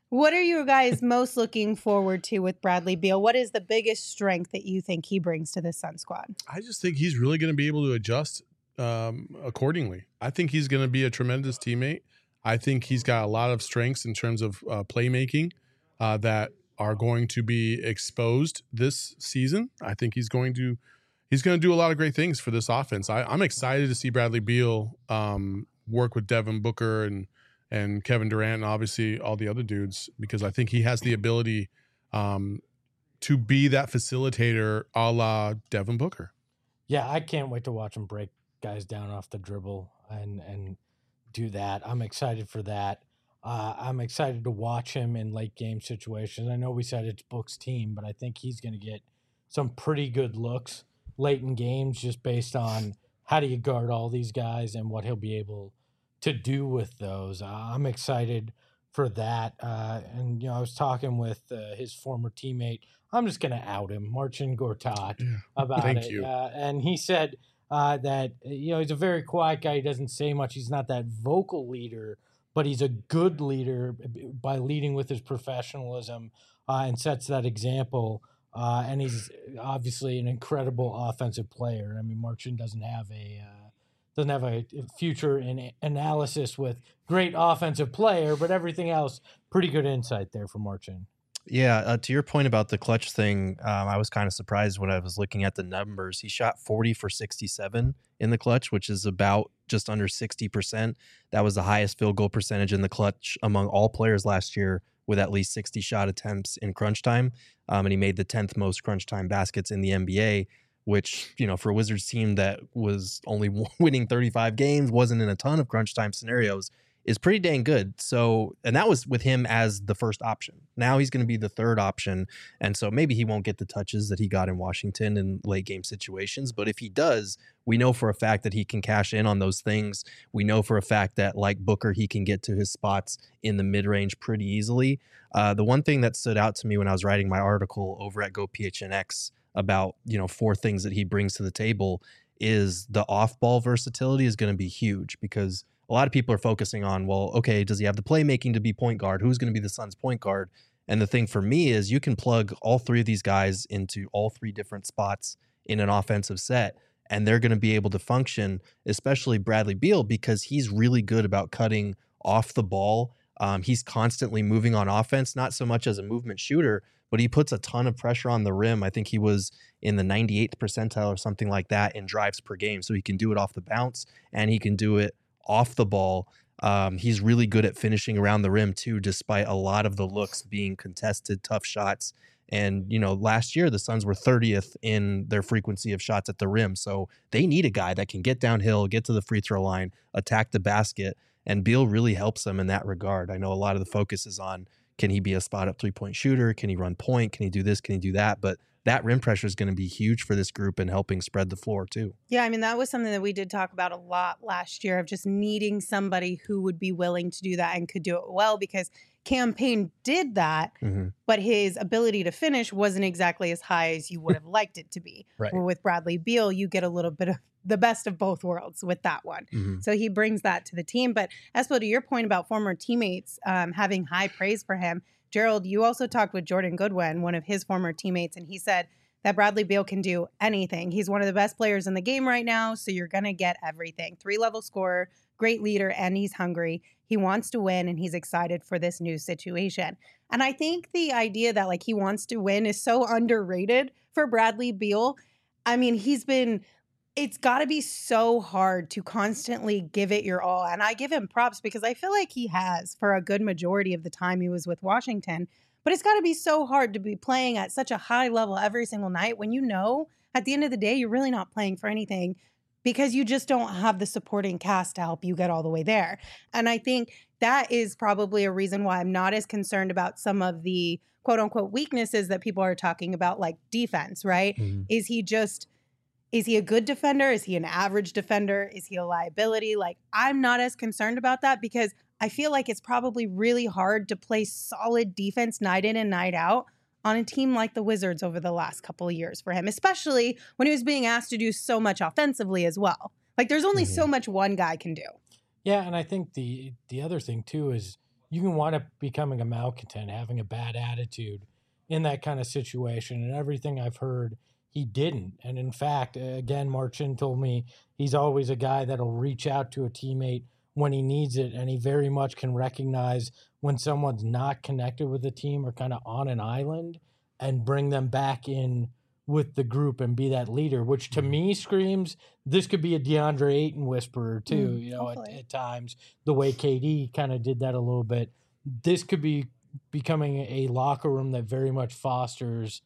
What are you guys most looking forward to with Bradley Beal? What is the biggest strength that you think he brings to this Sun squad? I just think he's really going to be able to adjust um, accordingly. I think he's going to be a tremendous teammate. I think he's got a lot of strengths in terms of uh, playmaking uh, that are going to be exposed this season. I think he's going to he's going to do a lot of great things for this offense. I, I'm excited to see Bradley Beal um, work with Devin Booker and and Kevin Durant and obviously all the other dudes, because I think he has the ability um, to be that facilitator a la Devin Booker. Yeah, I can't wait to watch him break guys down off the dribble and and do that. I'm excited for that. Uh, I'm excited to watch him in late game situations. I know we said it's Book's team, but I think he's going to get some pretty good looks late in games just based on how do you guard all these guys and what he'll be able to do with those. Uh, I'm excited for that. Uh, and, you know, I was talking with uh, his former teammate. I'm just going to out him, Marcin Gortat, Yeah. about Thank it. you. Uh, and he said uh, that, you know, he's a very quiet guy. He doesn't say much. He's not that vocal leader, but he's a good leader by leading with his professionalism uh, and sets that example. Uh, and he's obviously an incredible offensive player. I mean, Marcin doesn't have a uh, doesn't have a future in analysis with great offensive player, but everything else, pretty good insight there from Marcin. Yeah, uh, to your point about the clutch thing, um, I was kind of surprised when I was looking at the numbers. He shot forty for sixty-seven in the clutch, which is about just under sixty percent. That was the highest field goal percentage in the clutch among all players last year, with at least sixty shot attempts in crunch time. Um, and he made the tenth most crunch time baskets in the N B A, which, you know, for a Wizards team that was only winning thirty-five games, wasn't in a ton of crunch time scenarios, is pretty dang good. So, and that was with him as the first option. Now he's going to be the third option. And so maybe he won't get the touches that he got in Washington in late game situations. But if he does, we know for a fact that he can cash in on those things. We know for a fact that, like Booker, he can get to his spots in the mid-range pretty easily. Uh, the one thing that stood out to me when I was writing my article over at Go P H N X about, you know, four things that he brings to the table is the off-ball versatility is going to be huge, because a lot of people are focusing on, well, okay, does he have the playmaking to be point guard? Who's going to be the Suns' point guard? And the thing for me is you can plug all three of these guys into all three different spots in an offensive set, and they're going to be able to function, especially Bradley Beal, because he's really good about cutting off the ball. Um, he's constantly moving on offense, not so much as a movement shooter, but he puts a ton of pressure on the rim. I think he was in the ninety-eighth percentile or something like that in drives per game. So he can do it off the bounce, and he can do it off the ball. Um, he's really good at finishing around the rim too, despite a lot of the looks being contested, tough shots. And, you know, last year the Suns were thirtieth in their frequency of shots at the rim. So they need a guy that can get downhill, get to the free throw line, attack the basket. And Beal really helps them in that regard. I know a lot of the focus is on, can he be a spot up three-point shooter? Can he run point? Can he do this? Can he do that? But that rim pressure is going to be huge for this group and helping spread the floor too. Yeah, I mean, that was something that we did talk about a lot last year, of just needing somebody who would be willing to do that and could do it well, because Cam Payne did that, Mm-hmm. but his ability to finish wasn't exactly as high as you would have liked it to be. Right. Where with Bradley Beal, you get a little bit of the best of both worlds with that one. Mm-hmm. So he brings that to the team. But Espo, to your point about former teammates um, having high praise for him, Gerald, you also talked with Jordan Goodwin, one of his former teammates, and he said that Bradley Beal can do anything. He's one of the best players in the game right now, so you're going to get everything. Three-level scorer, great leader, and he's hungry. He wants to win, and he's excited for this new situation. And I think the idea that, like, he wants to win is so underrated for Bradley Beal. I mean, he's been... It's got to be so hard to constantly give it your all. And I give him props because I feel like he has for a good majority of the time he was with Washington. But it's got to be so hard to be playing at such a high level every single night when you know at the end of the day, you're really not playing for anything because you just don't have the supporting cast to help you get all the way there. And I think that is probably a reason why I'm not as concerned about some of the quote unquote weaknesses that people are talking about, like defense, right? Mm-hmm. Is he just... Is he a good defender? Is he an average defender? Is he a liability? Like, I'm not as concerned about that because I feel like it's probably really hard to play solid defense night in and night out on a team like the Wizards over the last couple of years for him, especially when he was being asked to do so much offensively as well. Like, there's only Mm-hmm. so much one guy can do. Yeah, and I think the the other thing too is you can wind up becoming a malcontent, having a bad attitude in that kind of situation. And everything I've heard, he didn't. And in fact, again, Marchand told me he's always a guy that'll reach out to a teammate when he needs it. And he very much can recognize when someone's not connected with the team or kind of on an island and bring them back in with the group and be that leader, which to me screams this could be a DeAndre Ayton whisperer too, mm, you know, at, at times, the way K D kind of did that a little bit. This could be becoming a locker room that very much fosters,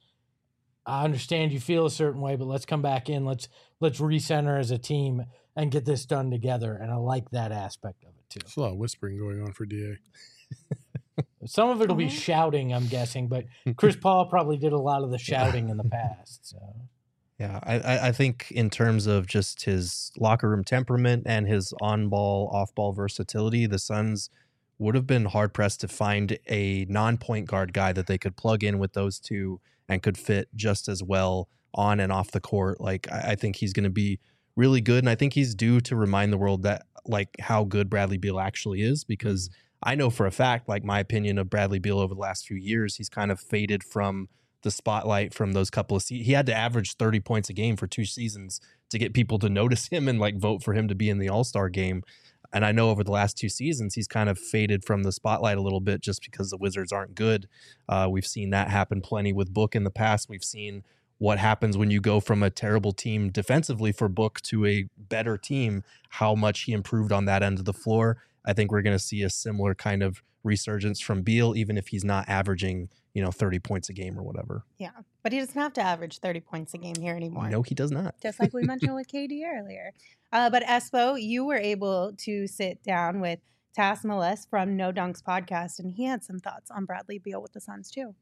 I understand you feel a certain way, but let's come back in. Let's let's recenter as a team and get this done together. And I like that aspect of it too. There's a lot of whispering going on for D A. Some of it will be shouting, I'm guessing, but Chris Paul probably did a lot of the shouting in the past. So. Yeah, I, I think in terms of just his locker room temperament and his on-ball, off-ball versatility, the Suns would have been hard-pressed to find a non-point guard guy that they could plug in with those two and could fit just as well on and off the court. Like, I, I think he's going to be really good, and I think he's due to remind the world that, like, how good Bradley Beal actually is, because I know for a fact, like, my opinion of Bradley Beal over the last few years, he's kind of faded from the spotlight from those couple of seasons. He had to average thirty points a game for two seasons to get people to notice him and like vote for him to be in the All-Star game. And I know over the last two seasons, he's kind of faded from the spotlight a little bit just because the Wizards aren't good. Uh, we've seen that happen plenty with Book in the past. We've seen what happens when you go from a terrible team defensively for Book to a better team, how much he improved on that end of the floor. I think we're going to see a similar kind of resurgence from Beal, even if he's not averaging, you know, thirty points a game or whatever. Yeah, but he doesn't have to average thirty points a game here anymore. No, he does not. Just like we mentioned with K D earlier. Uh, but Espo, you were able to sit down with Tas Meles from No Dunks podcast, and he had some thoughts on Bradley Beal with the Suns too.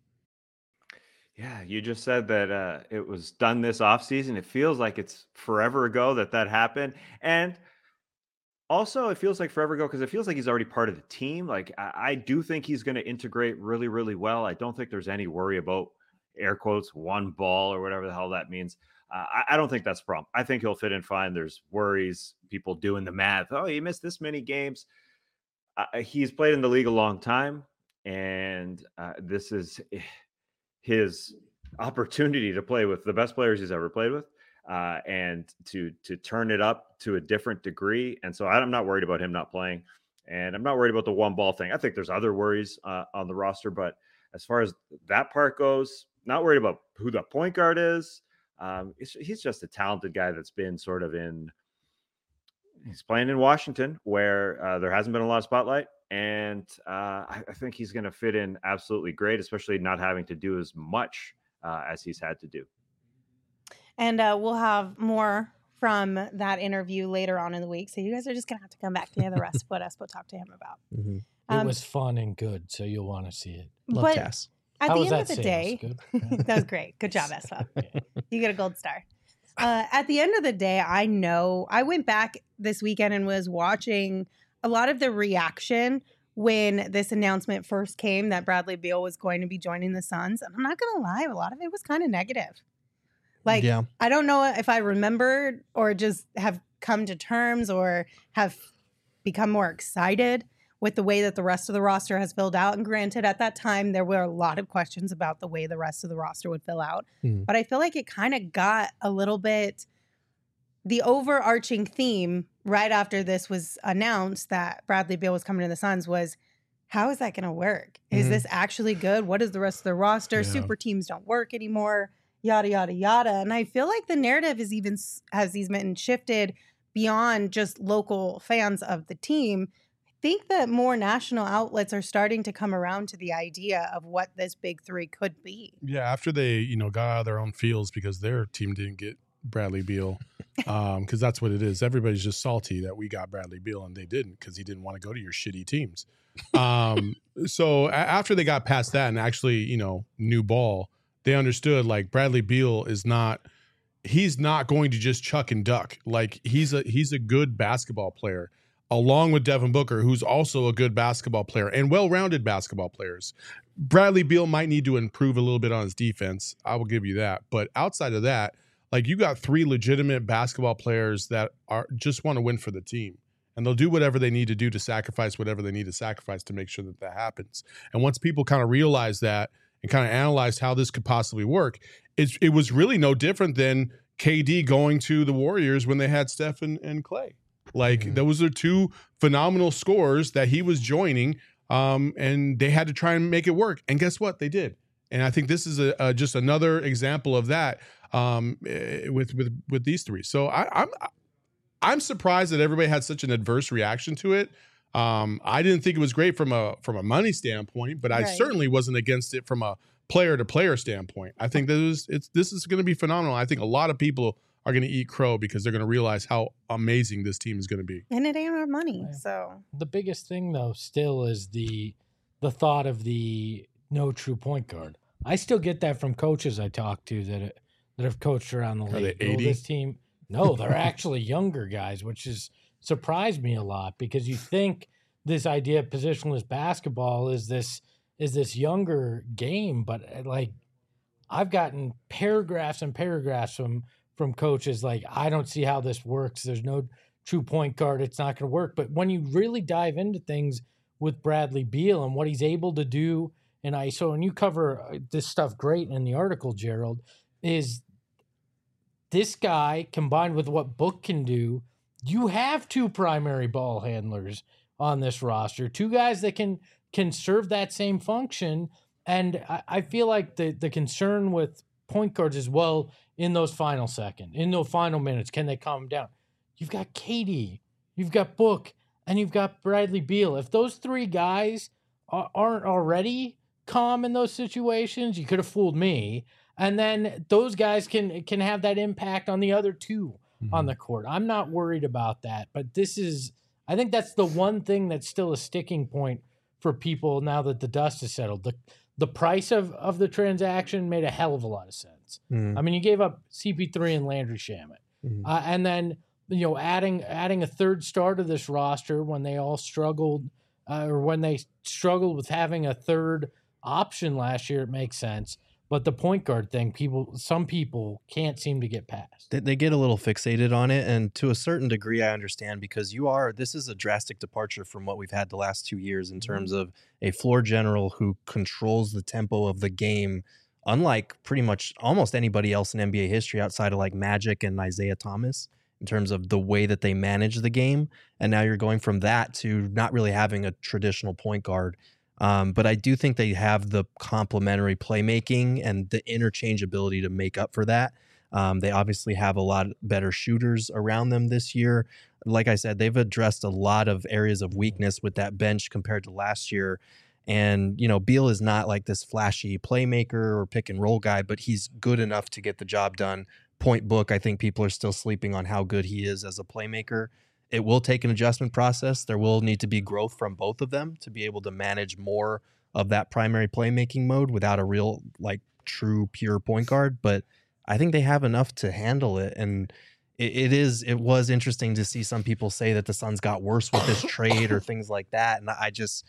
Yeah, you just said that uh, it was done this offseason. It feels like it's forever ago that that happened. And also, it feels like forever ago because it feels like he's already part of the team. Like, I, I do think he's going to integrate really, really well. I don't think there's any worry about, air quotes, one ball or whatever the hell that means. Uh, I, I don't think that's a problem. I think he'll fit in fine. There's worries, people doing the math. Oh, he missed this many games. Uh, he's played in the league a long time, and uh, this is his opportunity to play with the best players he's ever played with. Uh, and to to turn it up to a different degree. And so I'm not worried about him not playing. And I'm not worried about the one ball thing. I think there's other worries uh, on the roster. But as far as that part goes, not worried about who the point guard is. Um, it's, he's just a talented guy that's been sort of in – he's playing in Washington where uh, there hasn't been a lot of spotlight. And uh, I, I think he's going to fit in absolutely great, especially not having to do as much uh, as he's had to do. And uh, we'll have more from that interview later on in the week. So you guys are just going to have to come back to hear the rest of what Espo talked to him about. Mm-hmm. Um, it was fun and good, so you'll want to see it. Love Cass. At How the was end that of the sales? day, Good? that was great. Good job, Espo. You get a gold star. Uh, at the end of the day, I know I went back this weekend and was watching a lot of the reaction when this announcement first came that Bradley Beal was going to be joining the Suns. And I'm not going to lie, a lot of it was kind of negative. Like, yeah. I don't know if I remembered or just have come to terms or have become more excited with the way that the rest of the roster has filled out. And granted, at that time, there were a lot of questions about the way the rest of the roster would fill out. Mm. But I feel like it kind of got a little bit, the overarching theme right after this was announced that Bradley Beal was coming to the Suns was, how is that going to work? Is mm-hmm. this actually good? What is the rest of the roster? Yeah. Super teams don't work anymore. Yada, yada, yada. And I feel like the narrative is even has even shifted beyond just local fans of the team. I think that more national outlets are starting to come around to the idea of what this big three could be. Yeah, after they, you know, got out of their own fields because their team didn't get Bradley Beal, um, because that's what it is. Everybody's just salty that we got Bradley Beal and they didn't because he didn't want to go to your shitty teams. Um, so a- after they got past that and actually, you know, new ball, they understood like Bradley Beal is not, he's not going to just chuck and duck. Like he's a, he's a good basketball player along with Devin Booker, who's also a good basketball player and well-rounded basketball players. Bradley Beal might need to improve a little bit on his defense. I will give you that. But outside of that, like you got three legitimate basketball players that are just want to win for the team. and they'll do whatever they need to do to sacrifice whatever they need to sacrifice to make sure that that happens. And once people kind of realize that and kind of analyze how this could possibly work, it, it was really no different than K D going to the Warriors when they had Steph and, and Clay. Like mm-hmm. those are two phenomenal scores that he was joining, um, and they had to try and make it work. And guess what? They did. And I think this is a, a just another example of that um, with with with these three. So I, I'm I'm surprised that everybody had such an adverse reaction to it. Um, I didn't think it was great from a from a money standpoint, but I Right. certainly wasn't against it from a player to player standpoint. I think that is it's this is going to be phenomenal. I think a lot of people are going to eat crow because they're going to realize how amazing this team is going to be. And it ain't our money. So The biggest thing though still is the the thought of the no true point guard. I still get that from coaches I talk to that that have coached around the Are league. they Oh, eighty? this team, no, they're actually younger guys, which has surprised me a lot because you think this idea of positionless basketball is this is this younger game, but like I've gotten paragraphs and paragraphs from from coaches like, I don't see how this works. There's no true point guard. It's not going to work. But when you really dive into things with Bradley Beal and what he's able to do in I S O, and you cover this stuff great in the article, Gerald, is this guy combined with what Book can do, you have two primary ball handlers on this roster, two guys that can can serve that same function. And I, I feel like the the concern with point guards as well in those final second, in those final minutes, can they calm down? You've got K D, you've got Book, and you've got Bradley Beal. If those three guys are, aren't already calm in those situations, you could have fooled me. And then those guys can can have that impact on the other two mm-hmm. on the court. I'm not worried about that, but this is, I think that's the one thing that's still a sticking point for people now that the dust has settled. The the price of, of the transaction made a hell of a lot of sense. Mm-hmm. I mean, you gave up C P three and Landry Shamet. Mm-hmm. Uh, and then, you know, adding adding a third star to this roster when they all struggled uh, or when they struggled with having a third option last year, it makes sense. But the point guard thing, people, some people can't seem to get past. They, they get a little fixated on it, and to a certain degree, I understand because you are. This is a drastic departure from what we've had the last two years in terms of a floor general who controls the tempo of the game, unlike pretty much almost anybody else in N B A history outside of like Magic and Isaiah Thomas in terms of the way that they manage the game. And now you're going from that to not really having a traditional point guard. Um, but I do think they have the complementary playmaking and the interchangeability to make up for that. Um, they obviously have a lot better shooters around them this year. Like I said, they've addressed a lot of areas of weakness with that bench compared to last year. And, you know, Beal is not like this flashy playmaker or pick and roll guy, but he's good enough to get the job done. Point Book, I think people are still sleeping on how good he is as a playmaker. It will take an adjustment process. There will need to be growth from both of them to be able to manage more of that primary playmaking mode without a real, like, true, pure point guard. But I think they have enough to handle it. And it, it is, it was interesting to see some people say that the Suns got worse with this trade or things like that. And I just,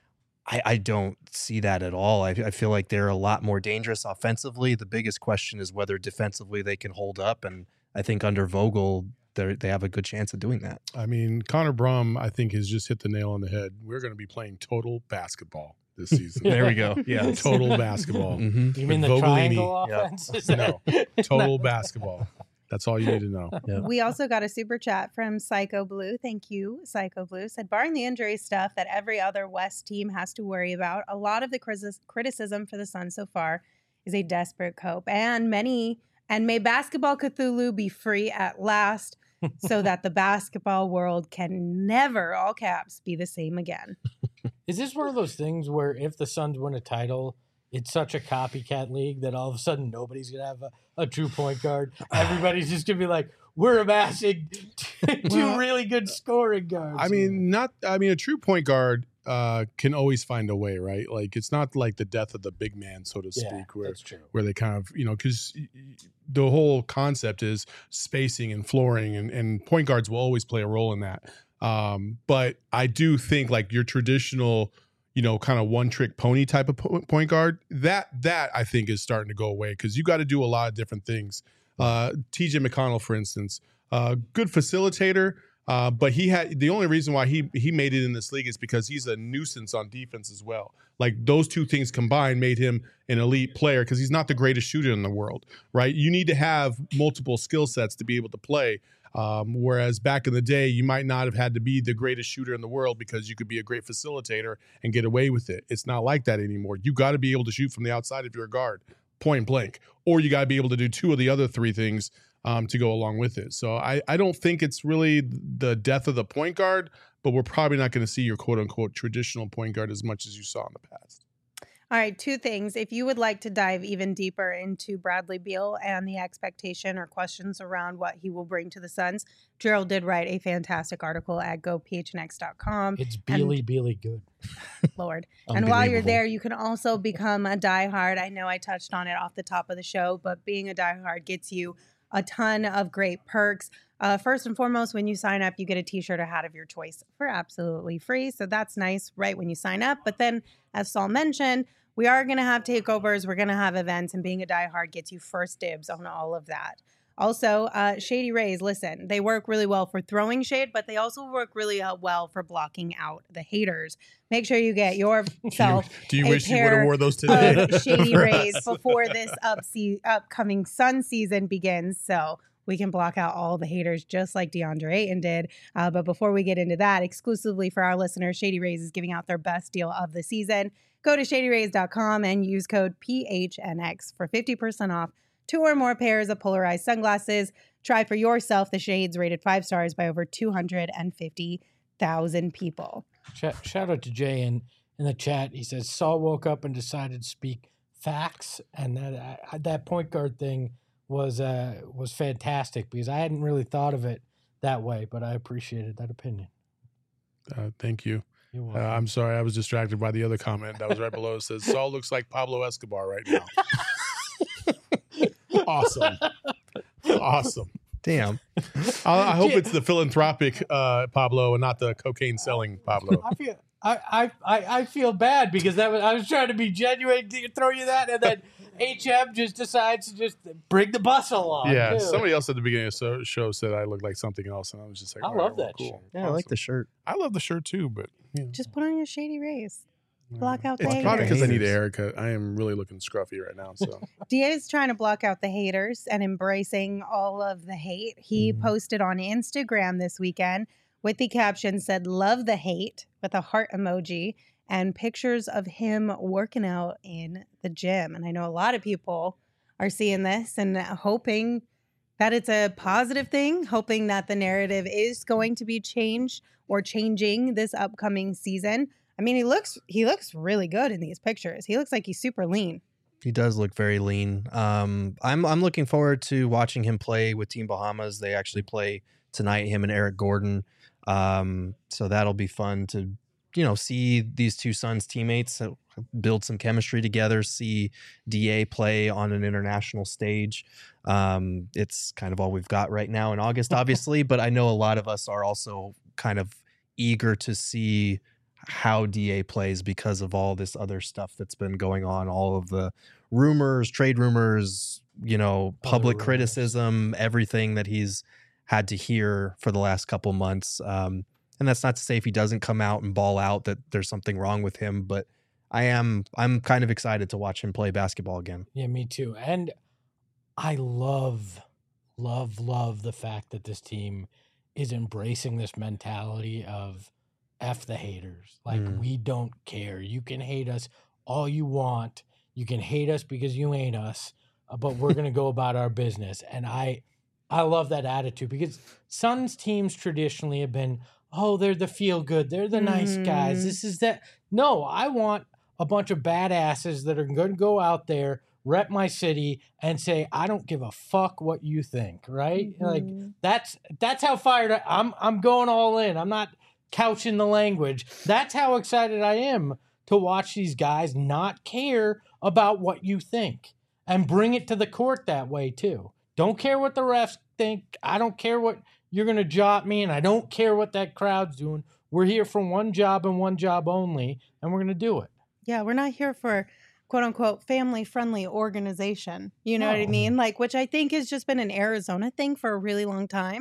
I, I don't see that at all. I, I feel like they're a lot more dangerous offensively. The biggest question is whether defensively they can hold up. And I think under Vogel, they they have a good chance of doing that. I mean, Connor Brum, I think, has just hit the nail on the head. We're going to be playing total basketball this season. There we go. Yeah, total basketball. Mm-hmm. You mean the Vogelini. triangle Yeah. offense? No, total basketball. That's all you need to know. Yeah. we also got a super chat from Psycho Blue. Thank you, Psycho Blue. Said, barring the injury stuff that every other West team has to worry about, a lot of the criti- criticism for the Suns so far is a desperate cope. And many, and may Basketball Cthulhu be free at last so that the basketball world can never, all caps, be the same again. Is this one of those things where if the Suns win a title, it's such a copycat league that all of a sudden nobody's going to have a, a true point guard? Everybody's just going to be like, we're amassing two Well, really good scoring guards. I mean, not. I mean, a true point guard uh, can always find a way, right? Like, it's not like the death of the big man, so to yeah, speak, where that's true. where they kind of, you know, because the whole concept is spacing and flooring, and, and point guards will always play a role in that. Um, but I do think like your traditional, you know, kind of one trick pony type of po- point guard, that that I think is starting to go away because you got to do a lot of different things. Uh, T J McConnell, for instance, uh, good facilitator, Uh, but he had the only reason why he he made it in this league is because he's a nuisance on defense as well. Like those two things combined made him an elite player because he's not the greatest shooter in the world, right? You need to have multiple skill sets to be able to play. Um, whereas back in the day, you might not have had to be the greatest shooter in the world because you could be a great facilitator and get away with it. It's not like that anymore. You got to be able to shoot from the outside if you're a guard, point blank, or you got to be able to do two of the other three things um, to go along with it. So I, I don't think it's really the death of the point guard, but we're probably not going to see your quote unquote traditional point guard as much as you saw in the past. All right, two things. If you would like to dive even deeper into Bradley Beal and the expectation or questions around what he will bring to the Suns, Gerald did write a fantastic article at go p h n x dot com. It's Bealy, Bealy good. Lord. And while you're there, you can also become a diehard. I know I touched on it off the top of the show, but being a diehard gets you a ton of great perks. Uh, first and foremost, when you sign up, you get a t-shirt or hat of your choice for absolutely free. So that's nice right when you sign up. But then, as Saul mentioned, we are going to have takeovers. We're going to have events, and being a diehard gets you first dibs on all of that. Also, uh, Shady Rays, listen, they work really well for throwing shade, but they also work really uh, well for blocking out the haters. Make sure you get yourself Do you, do you a wish you would pair have wore those today? of Shady Rays before this up se- upcoming Sun season begins, so we can block out all the haters just like DeAndre Ayton did. Uh, but before we get into that, exclusively for our listeners, Shady Rays is giving out their best deal of the season. Go to shady rays dot com and use code P H N X for fifty percent off two or more pairs of polarized sunglasses. Try for yourself the shades rated five stars by over two hundred fifty thousand people. Shout, shout out to Jay in, in the chat. He says, Saul woke up and decided to speak facts. And that uh, that point guard thing was uh, was fantastic because I hadn't really thought of it that way, but I appreciated that opinion. Uh, thank you. You're Uh, welcome. I'm sorry, I was distracted by the other comment that was right below. It says, Saul looks like Pablo Escobar right now. Awesome. Awesome. Damn. I, I hope it's the philanthropic uh, Pablo and not the cocaine selling Pablo. I feel I, I, I, I feel bad because that was I was trying to be genuine to throw you that, and then H M just decides to just bring the bus along. Yeah, too. somebody else at the beginning of the show said I looked like something else, and I was just like, I all love right, well, that cool. shirt. Yeah, I like the shirt. I love the shirt too, but you know, Just put on your Shady Rays. Block out the it's haters. probably because I need a Haters. haircut. I am really looking scruffy right now. So D A is trying to block out the haters and embracing all of the hate. He Mhm. posted on Instagram this weekend with the caption said, love the hate with a heart emoji and pictures of him working out in the gym. And I know a lot of people are seeing this and hoping that it's a positive thing, hoping that the narrative is going to be changed or changing this upcoming season. I mean, he looks he looks really good in these pictures. He looks like he's super lean. He does look very lean. Um, I'm I'm looking forward to watching him play with Team Bahamas. They actually play tonight, him and Eric Gordon. Um, so that'll be fun to, you know, see these two Suns teammates uh, build some chemistry together, see D A play on an international stage. Um, it's kind of all we've got right now in August, obviously, but I know a lot of us are also kind of eager to see how D A plays because of all this other stuff that's been going on, all of the rumors, trade rumors, you know, Other public rumors. criticism, everything that he's had to hear for the last couple months. Um, and that's not to say if he doesn't come out and ball out that there's something wrong with him, but I am I'm kind of excited to watch him play basketball again. Yeah, me too. And I love, love, love the fact that this team is embracing this mentality of F the haters. Like, Mm. we don't care. You can hate us all you want. You can hate us because you ain't us, uh, but we're going to go about our business. And I, I love that attitude because Suns teams traditionally have been, oh, they're the feel good. They're the nice guys. Mhm. This is that. No, I want a bunch of badasses that are going to go out there, rep my city, and say, I don't give a fuck what you think, right? Like, Mhm. that's that's how fired I, I'm. I'm going all in. I'm not couching the language. That's how excited I am to watch these guys not care about what you think and bring it to the court that way too. Don't care what the refs think. I don't care what you're going to jot me, and I don't care what that crowd's doing. We're here for one job and one job only, and we're going to do it. Yeah, we're not here for quote unquote family friendly organization. You know what I No. mean? Like, which I think has just been an Arizona thing for a really long time.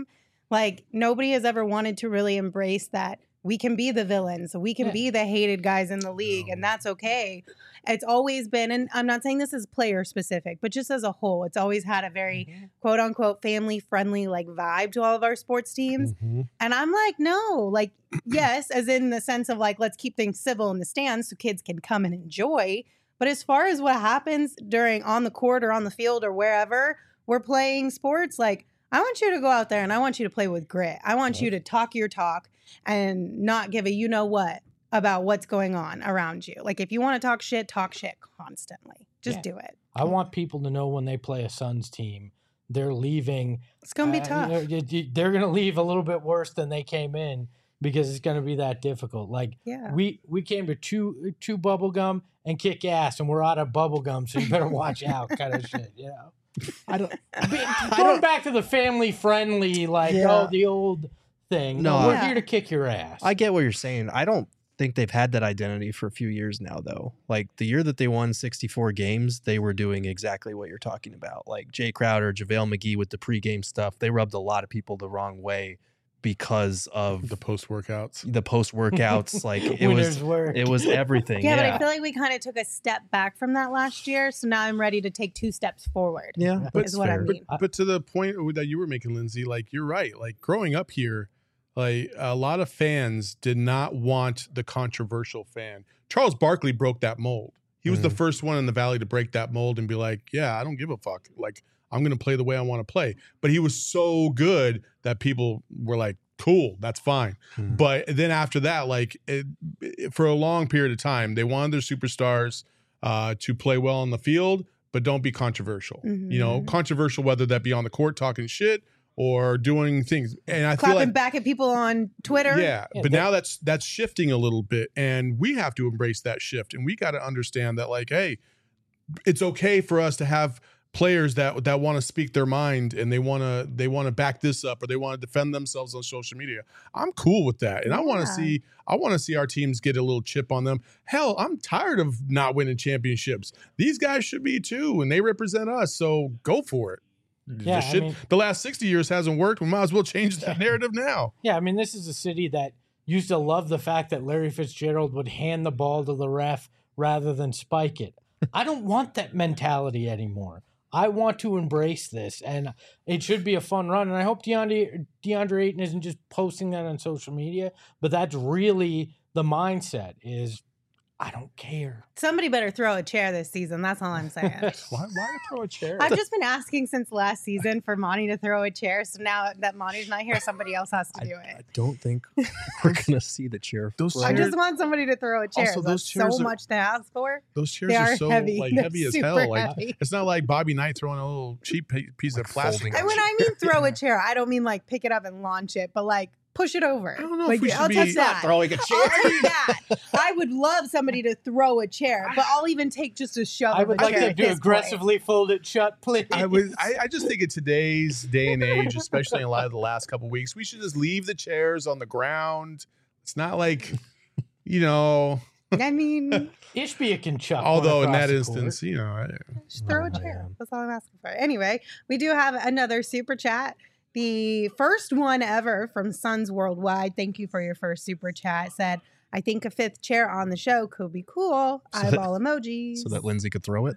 Like, nobody has ever wanted to really embrace that we can be the villains. We can Yeah. be the hated guys in the league, and that's okay. It's always been, and I'm not saying this is player specific, but just as a whole, it's always had a very Mhm. quote unquote family friendly like vibe to all of our sports teams. Mhm. And I'm like, no, like, yes, as in the sense of like, let's keep things civil in the stands so kids can come and enjoy. But as far as what happens during on the court or on the field or wherever we're playing sports, like, I want you to go out there and I want you to play with grit. I want you to talk your talk and not give a you know what about what's going on around you. Like, if you want to talk shit, talk shit constantly. Just Yeah. do it. I want people to know when they play a Suns team, they're leaving. It's going to be uh, tough. you know, y- y- they're going to leave a little bit worse than they came in because it's going to be that difficult. Like Yeah. we we came to chew chew bubble gum and kick ass, and we're out of bubble gum, so you better watch out, kind of shit. You know. I don't. Be- Going back to the family friendly, like Yeah. oh the old thing. No, No, we're I- here to kick your ass. I get what you're saying. I don't think they've had that identity for a few years now, though. Like the year that they won sixty-four games, they were doing exactly what you're talking about. Like Jay Crowder, JaVale McGee with the pregame stuff, they rubbed a lot of people the wrong way because of The post workouts. the post workouts. Like it Winners was, work. it was everything. Yeah, Yeah, but I feel like we kind of took a step back from that last year. So now I'm ready to take two steps forward. yeah, But- is what I fair. mean. But to the point that you were making, Lindsay, like you're right. Like growing up here, like a lot of fans did not want the controversial fan. Charles Barkley broke that mold. He was the Mhm. first one in the Valley to break that mold and be like, yeah, I don't give a fuck. Like I'm going to play the way I want to play. But he was so good that people were like, cool, that's fine. Mhm. But then after that, like it, it- for a long period of time, they wanted their superstars uh, to play well on the field, but don't be controversial. You know, Mhm. controversial whether that be on the court talking shit or doing things. And I Clapping feel like back at people on Twitter. yeah, Yeah, but that- now that's that's shifting a little bit, and we have to embrace that shift, and we got to understand that, like, hey, it's okay for us to have players that that want to speak their mind and they want to they want to back this up or they want to defend themselves on social media. I'm cool with that, and I want to Yeah. see I want to see our teams get a little chip on them. Hell, I'm tired of not winning championships. These guys should be too, and they represent us, so go for it. Yeah, the I shit, mean- the last sixty years hasn't worked. We might as well change that narrative now. Yeah, I mean, this is a city that used to love the fact that Larry Fitzgerald would hand the ball to the ref rather than spike it. I don't want that mentality anymore. I want to embrace this, and it should be a fun run. And I hope DeAndre, DeAndre Ayton isn't just posting that on social media, but that's really the mindset is, I don't care. Somebody better throw a chair this season. That's all I'm saying. Why, why throw a chair? I've just been asking since last season for Monty to throw a chair. So now that Monty's not here, somebody else has to do I it. don't think we're gonna see the chair. Those fly. I chairs- just want somebody to throw a chair. Also, those That's chairs so are- much to ask for. Those chairs They are, are so heavy. like They're heavy as super hell. Like heavy. it's not like Bobby Knight throwing a little cheap pa- piece Like of plastic. folding on And when you. I mean throw a chair, I don't mean like pick it up and launch it, but like push it over. I don't know if like, we should I'll be- take It's that. throwing a I'll take that. I would love somebody to throw a chair, but I'll even take just a shove I of would a like chair to at do this point. aggressively fold it shut, please. I would. I, I just think in today's day and age, especially in light of the last couple of weeks, we should just leave the chairs on the ground. It's not like, you know. I mean, Ishbia can chuck. one Although in across that the instance, court. you know, I, just throw Oh, a chair. man. That's all I'm asking for. Anyway, we do have another super chat. The first one ever from Suns Worldwide. Thank you for your first super chat. Said, I think a fifth chair on the show could be cool. So that- Eyeball emojis. so that Lindsay could throw it.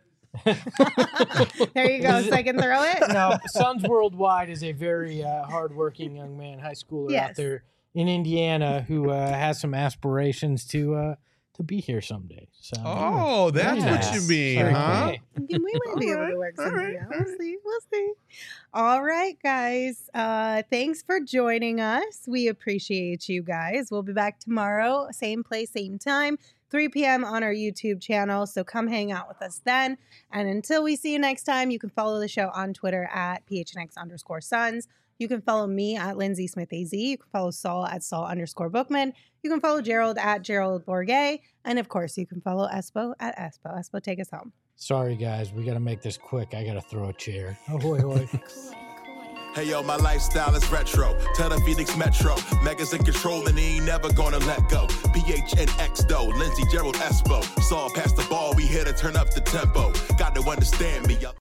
There you go. So I can throw it. Now, Suns Worldwide is a very uh, hardworking young man, high schooler out Yes. there in Indiana who uh, has some aspirations to uh, to be here someday. So, oh, that's very what nice. you mean, Very huh? nice. We might be able to work All something right, out. all We'll right. see. We'll see. All right, guys. Uh, thanks for joining us. We appreciate you guys. We'll be back tomorrow, same place, same time, three p.m. on our YouTube channel. So come hang out with us then. And until we see you next time, you can follow the show on Twitter at P H N X underscore Suns. You can follow me at Lindsay Smith A Z. You can follow Saul at Saul underscore Bookman. You can follow Gerald at Gerald Bourget. And of course, you can follow Espo at Espo. Espo, take us home. Sorry, guys. We got to make this quick. I got to throw a chair. Oh, boy, boy. Hey yo, my lifestyle is retro. Tell the Phoenix Metro. Megas in control and he ain't never gonna let go. P H N X though, Lindsay Gerald Espo. Saw past the ball, we here to turn up the tempo. Got to understand me, yo.